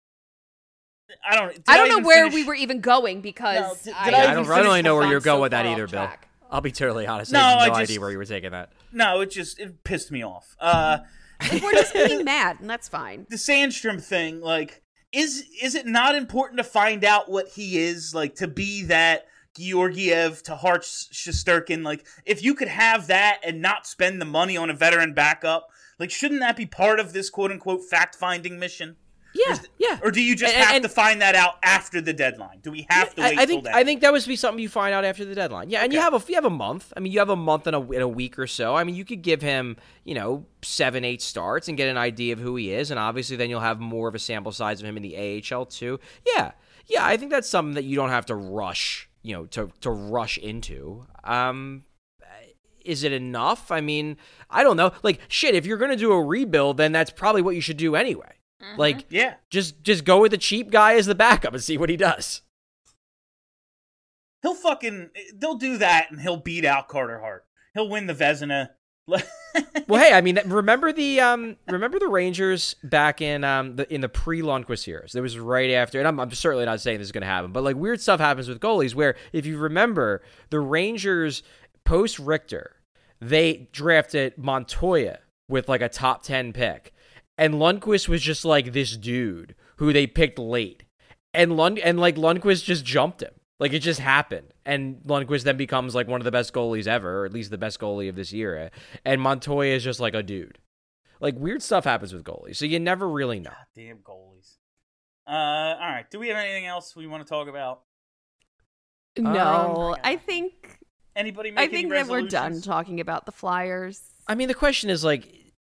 Speaker 4: I don't. did
Speaker 6: I don't
Speaker 4: even
Speaker 6: know where
Speaker 4: finish-
Speaker 6: we were even going because
Speaker 4: No, did- did
Speaker 6: I,
Speaker 4: I
Speaker 7: Yeah, I
Speaker 4: even
Speaker 7: don't, I
Speaker 4: finish
Speaker 7: don't really know where
Speaker 6: gone
Speaker 7: you're going
Speaker 6: so
Speaker 7: with that
Speaker 6: far
Speaker 7: either,
Speaker 6: off
Speaker 7: Bill.
Speaker 6: track.
Speaker 7: I'll be totally honest.
Speaker 4: No,
Speaker 7: I have
Speaker 4: I
Speaker 7: no
Speaker 4: just-
Speaker 7: idea where you were taking that.
Speaker 4: No, it just it pissed me off. Uh,
Speaker 6: Like, we're just being mad, and that's fine.
Speaker 4: the Sandstrom thing, like, is is it not important to find out what he is, like, to be that Georgiev to Hart Shesterkin? Like, if you could have that and not spend the money on a veteran backup, like, shouldn't that be part of this quote-unquote fact-finding mission?
Speaker 7: Yeah, yeah.
Speaker 4: Or do you just
Speaker 7: And-
Speaker 4: have
Speaker 7: and-
Speaker 4: to find that out after the deadline? Do we have to
Speaker 7: I,
Speaker 4: wait
Speaker 7: I
Speaker 4: till
Speaker 7: think
Speaker 4: then?
Speaker 7: I think that would be something you find out after the deadline. Yeah, and you
Speaker 4: Okay.
Speaker 7: have a you have a month. I mean, you have a month and a, in a week or so. I mean, you could give him, you know, seven, eight starts and get an idea of who he is, and obviously then you'll have more of a sample size of him in the A H L too. Yeah, yeah, I think that's something that you don't have to rush, you know, to to rush into. Um, is it enough? I mean, I don't know. Like, shit, if you're going to do a rebuild, then that's probably what you should do anyway. Mm-hmm. Like,
Speaker 4: yeah,
Speaker 7: just just go with the cheap guy as the backup and see what he does.
Speaker 4: He'll fucking, they'll do that and he'll beat out Carter Hart. He'll win the Vezina.
Speaker 7: Well, hey, I mean, remember the um, remember the Rangers back in um, the in the pre-Lundqvist years? There was right after, and I'm, I'm certainly not saying this is going to happen, but like weird stuff happens with goalies where if you remember the Rangers post Richter, they drafted Montoya with like a top ten pick, and Lundqvist was just like this dude who they picked late, and Lund and like Lundqvist just jumped him. Like, it just happened. And Lundqvist then becomes, like, one of the best goalies ever, or at least the best goalie of this era. And Montoya is just, like, a dude. Like, weird stuff happens with goalies, so you never really know.
Speaker 4: God damn goalies. Uh, all right. Do we have anything else we want to talk about?
Speaker 6: No,
Speaker 4: um,
Speaker 6: I think...
Speaker 4: Anybody make
Speaker 6: I
Speaker 4: any
Speaker 6: think that we're done
Speaker 4: resolutions?
Speaker 6: talking about the Flyers.
Speaker 7: I mean, the question is, like...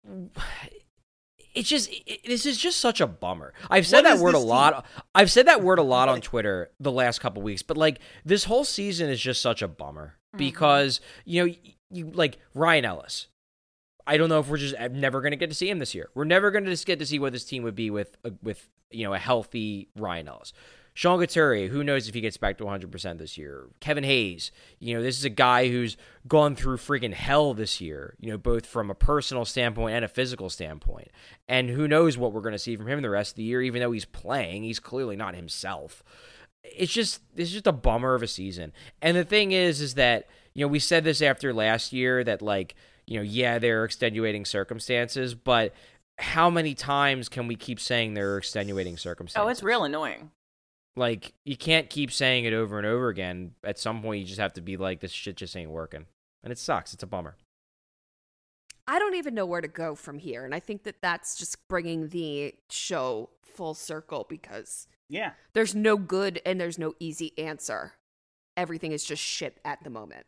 Speaker 7: It's just, it, this is just such a bummer. I've said
Speaker 4: What
Speaker 7: that
Speaker 4: is
Speaker 7: word a
Speaker 4: this
Speaker 7: lot. I've said that word a lot on Twitter the last couple weeks, but like this whole season is just such a bummer because, you know, you like Ryan Ellis. I don't know if we're just never going to get to see him this year. We're never going to just get to see what this team would be with, uh, with, you know, a healthy Ryan Ellis. Sean Couturier, who knows if he gets back to one hundred percent this year. Kevin Hayes, you know, this is a guy who's gone through freaking hell this year, you know, both from a personal standpoint and a physical standpoint. And who knows what we're going to see from him the rest of the year, even though he's playing. He's clearly not himself. It's just, it's just a bummer of a season. And the thing is, is that, you know, we said this after last year that, like, you know, yeah, there are extenuating circumstances, but how many times can we keep saying there are extenuating circumstances?
Speaker 5: Oh, it's real annoying.
Speaker 7: Like, you can't keep saying it over and over again. At some point, you just have to be like, this shit just ain't working. And it sucks. It's a bummer.
Speaker 6: I don't even know where to go from here. And I think that that's just bringing the show full circle because
Speaker 4: yeah,
Speaker 6: there's no good and there's no easy answer. Everything is just shit at the moment.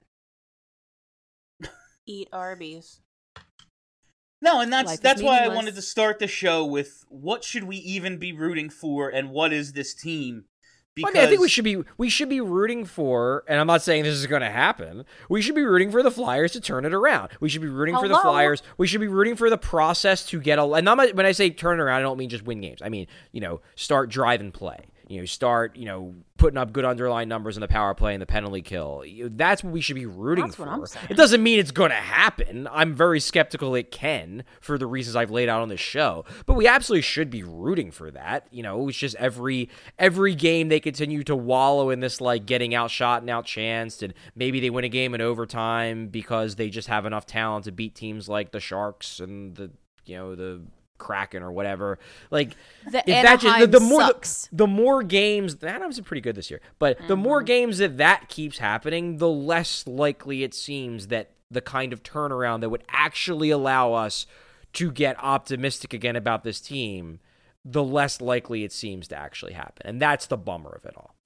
Speaker 5: Eat Arby's.
Speaker 4: No, and that's
Speaker 6: Life is
Speaker 4: that's why I
Speaker 6: meaningless.
Speaker 4: wanted to start the show with what should we even be rooting for and what is this team? Because
Speaker 7: Well, I mean, I think we should be we should be rooting for, and I'm not saying this is going to happen. We should be rooting for the Flyers to turn it around. We should be rooting for the
Speaker 5: Hello?
Speaker 7: Flyers. We should be rooting for the process to get a. And not, when I say turn it around, I don't mean just win games. I mean, you know, start drive and play. You know, start, you know, putting up good underlying numbers in the power play and the penalty kill. You know, that's what we should be rooting
Speaker 5: That's
Speaker 7: for.
Speaker 5: what I'm saying.
Speaker 7: It doesn't mean it's going to happen. I'm very skeptical it can for the reasons I've laid out on this show. But we absolutely should be rooting for that. You know, it's just every every game they continue to wallow in this, like, getting outshot and outchanced, and maybe they win a game in overtime because they just have enough talent to beat teams like the Sharks and the, you know, the Kraken or whatever. Like,
Speaker 6: The
Speaker 7: if that just, the,
Speaker 6: Anaheim
Speaker 7: the more
Speaker 6: sucks.
Speaker 7: The, the more games, the Anaheim's been pretty good this year, but mm-hmm. the more games that that keeps happening, the less likely it seems that the kind of turnaround that would actually allow us to get optimistic again about this team, the less likely it seems to actually happen. And that's the bummer of it all.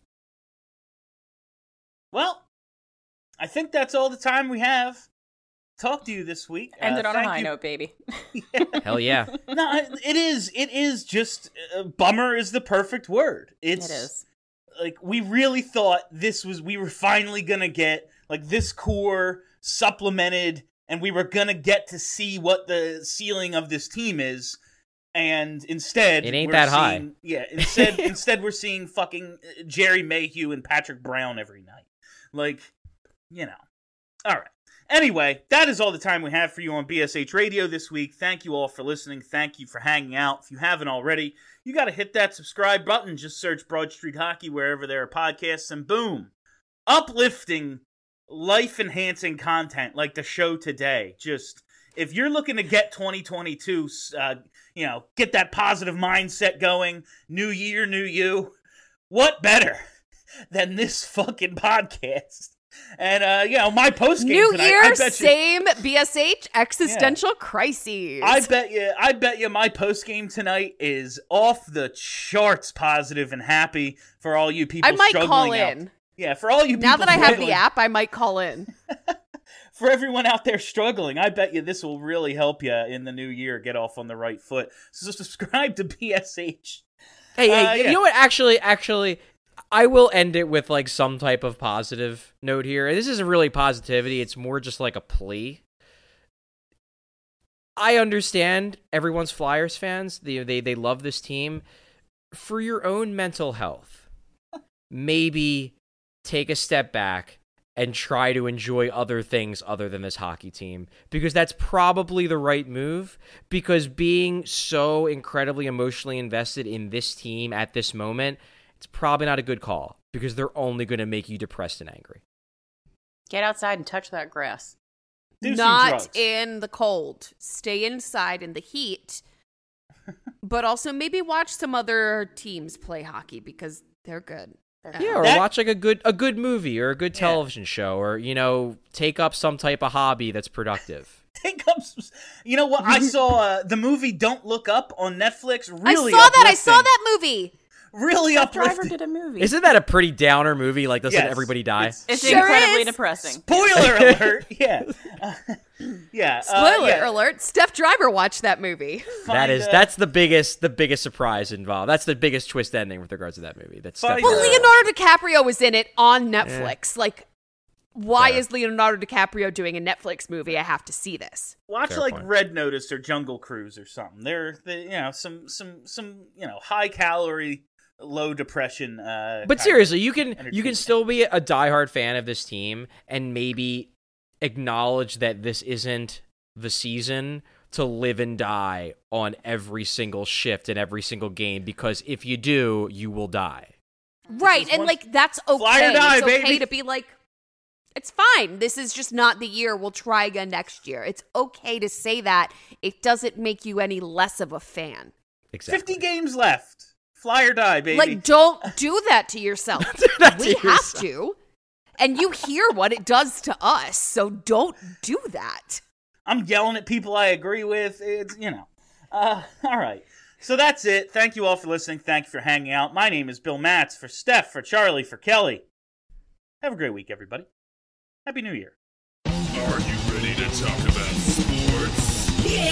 Speaker 4: Well, I think that's all the time we have. Talk to you this week.
Speaker 5: Ended
Speaker 4: uh,
Speaker 5: on a
Speaker 4: thank
Speaker 5: high
Speaker 4: you.
Speaker 5: note, baby.
Speaker 4: Yeah.
Speaker 7: Hell yeah.
Speaker 4: No, it is. It is just uh, bummer is the perfect word. It's
Speaker 5: It is.
Speaker 4: like we really thought this was we were finally gonna get like this core supplemented, and we were gonna get to see what the ceiling of this team is. And instead,
Speaker 7: It ain't
Speaker 4: we're
Speaker 7: that high.
Speaker 4: seeing, Yeah, instead, instead we're seeing fucking Jerry Mayhew and Patrick Brown every night. Like, you know. All right. Anyway, that is all the time we have for you on B S H Radio this week. Thank you all for listening. Thank you for hanging out. If you haven't already, you got to hit that subscribe button. Just search Broad Street Hockey wherever there are podcasts, and boom, uplifting, life-enhancing content like the show today. Just, if you're looking to get twenty twenty-two, uh, you know, get that positive mindset going, new year, new you, what better than this fucking podcast? And, uh, you know, my post game
Speaker 6: New
Speaker 4: tonight,
Speaker 6: year,
Speaker 4: I bet you,
Speaker 6: same B S H, existential crises.
Speaker 4: I bet you, I bet you my post game tonight is off the charts positive and happy for all you people
Speaker 6: I might
Speaker 4: struggling
Speaker 6: call
Speaker 4: out.
Speaker 6: in.
Speaker 4: Yeah, for all you people
Speaker 6: Now that I have
Speaker 4: struggling-
Speaker 6: the app, I might call in.
Speaker 4: For everyone out there struggling, I bet you this will really help you in the new year get off on the right foot. So subscribe to B S H.
Speaker 7: Hey, hey,
Speaker 4: Uh,
Speaker 7: you
Speaker 4: yeah.
Speaker 7: know what? Actually, actually, I will end it with like some type of positive note here. This isn't really positivity. It's more just like a plea. I understand everyone's Flyers fans. They, they, they love this team. For your own mental health, maybe take a step back and try to enjoy other things other than this hockey team, because that's probably the right move, because being so incredibly emotionally invested in this team at this moment, it's probably not a good call, because they're only going to make you depressed and angry.
Speaker 5: Get outside and touch that grass.
Speaker 4: Do some
Speaker 6: Not
Speaker 4: drugs.
Speaker 6: in the cold. Stay inside in the heat. But also maybe watch some other teams play hockey, because they're good.
Speaker 7: Yeah, or
Speaker 4: That-
Speaker 7: watch like a good a good movie or a good television
Speaker 4: Yeah.
Speaker 7: show, or, you know, take up some type of hobby that's productive.
Speaker 4: Take up some, you know what? I saw uh, the movie Don't Look Up on Netflix. Really
Speaker 6: I saw that. I saw
Speaker 4: uplifting.
Speaker 6: that movie.
Speaker 4: Really
Speaker 5: Jeff Driver
Speaker 4: uplifting.
Speaker 5: did a movie.
Speaker 7: Isn't that a pretty downer movie? Like, doesn't
Speaker 4: Yes,
Speaker 7: everybody die?
Speaker 4: it's-
Speaker 5: It's
Speaker 6: Sure
Speaker 5: incredibly
Speaker 6: is.
Speaker 5: depressing.
Speaker 4: Spoiler alert! Yeah, uh, yeah. uh,
Speaker 6: Spoiler
Speaker 4: yeah.
Speaker 6: alert, Steph Driver watched that movie.
Speaker 7: that
Speaker 4: Find,
Speaker 7: is
Speaker 4: uh,
Speaker 7: that's the biggest the biggest surprise involved. That's the biggest twist ending with regards to that movie. That's
Speaker 4: Find,
Speaker 6: Well,
Speaker 4: uh,
Speaker 6: Leonardo DiCaprio was in it on Netflix. Like, why
Speaker 7: Fair.
Speaker 6: is Leonardo DiCaprio doing a Netflix movie? I have to see this.
Speaker 4: Watch
Speaker 7: Fair
Speaker 4: like
Speaker 7: point.
Speaker 4: Red Notice or Jungle Cruise or something. They're, they, you know, some some some you know high calorie, low depression. Uh,
Speaker 7: But
Speaker 4: kind
Speaker 7: seriously,
Speaker 4: of
Speaker 7: you can you can
Speaker 4: entertainment.
Speaker 7: still be a diehard fan of this team and maybe acknowledge that this isn't the season to live and die on every single shift in every single game, because if you do, you will die.
Speaker 6: Right,
Speaker 4: is
Speaker 6: and
Speaker 4: one-
Speaker 6: like that's okay.
Speaker 4: Fly or die,
Speaker 6: it's okay
Speaker 4: baby.
Speaker 6: to be like, it's fine. This is just not the year. We'll try again next year. It's okay to say that. It doesn't make you any less of a fan.
Speaker 7: Exactly.
Speaker 4: Fifty games left. Fly or die, baby.
Speaker 6: Like, don't do that to yourself.
Speaker 7: that
Speaker 6: we
Speaker 7: to
Speaker 6: have
Speaker 7: yourself.
Speaker 6: to. And you hear what it does to us, so don't do that.
Speaker 4: I'm yelling at people I agree with. It's, you know. Uh, all right. So that's it. Thank you all for listening. Thank you for hanging out. My name is Bill Matz. For Steph, for Charlie, for Kelly. Have a great week, everybody. Happy New Year.
Speaker 1: Are you ready to talk about sports?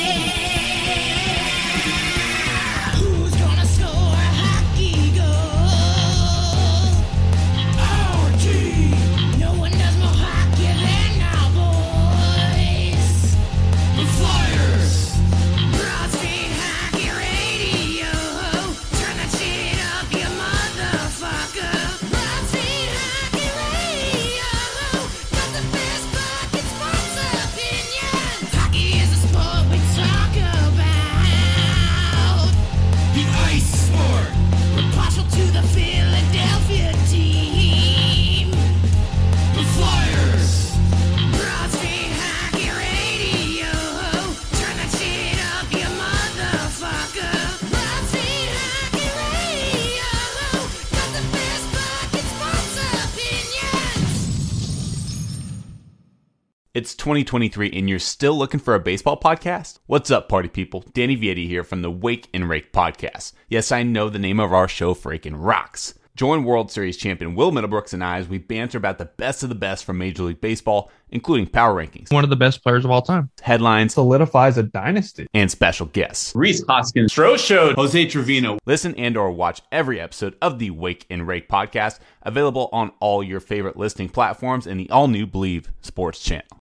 Speaker 11: Who's gonna score a hockey goal? Our team. No one does more hockey than our boys. The Flyers. Broad Street Hockey Radio. Turn that shit up, you motherfucker. Broad Street Hockey Radio. Got the best fucking sports opinions. Hockey is a sport we talk about. The ice sport. We're partial to the Philadelphia team. The Flyers. Broad Street Hockey Radio. Turn that shit up, you motherfucker. Broad Street Hockey Radio. Got the best fucking sports opinions.
Speaker 12: It's twenty twenty-three and you're still looking for a baseball podcast? What's up, party people? Danny Vietti here from the Wake and Rake podcast. Yes, I know the name of our show freaking rocks. Join World Series champion Will Middlebrooks and I as we banter about the best of the best from Major League Baseball, including power rankings,
Speaker 13: One of the best players of all time.
Speaker 12: headlines,
Speaker 13: Solidifies a dynasty.
Speaker 12: and special guests.
Speaker 14: Reese Hoskins, Stro Show,
Speaker 12: Jose Trevino. Listen and or watch every episode of the Wake and Rake podcast, available on all your favorite listening platforms and the all-new Believe Sports channel.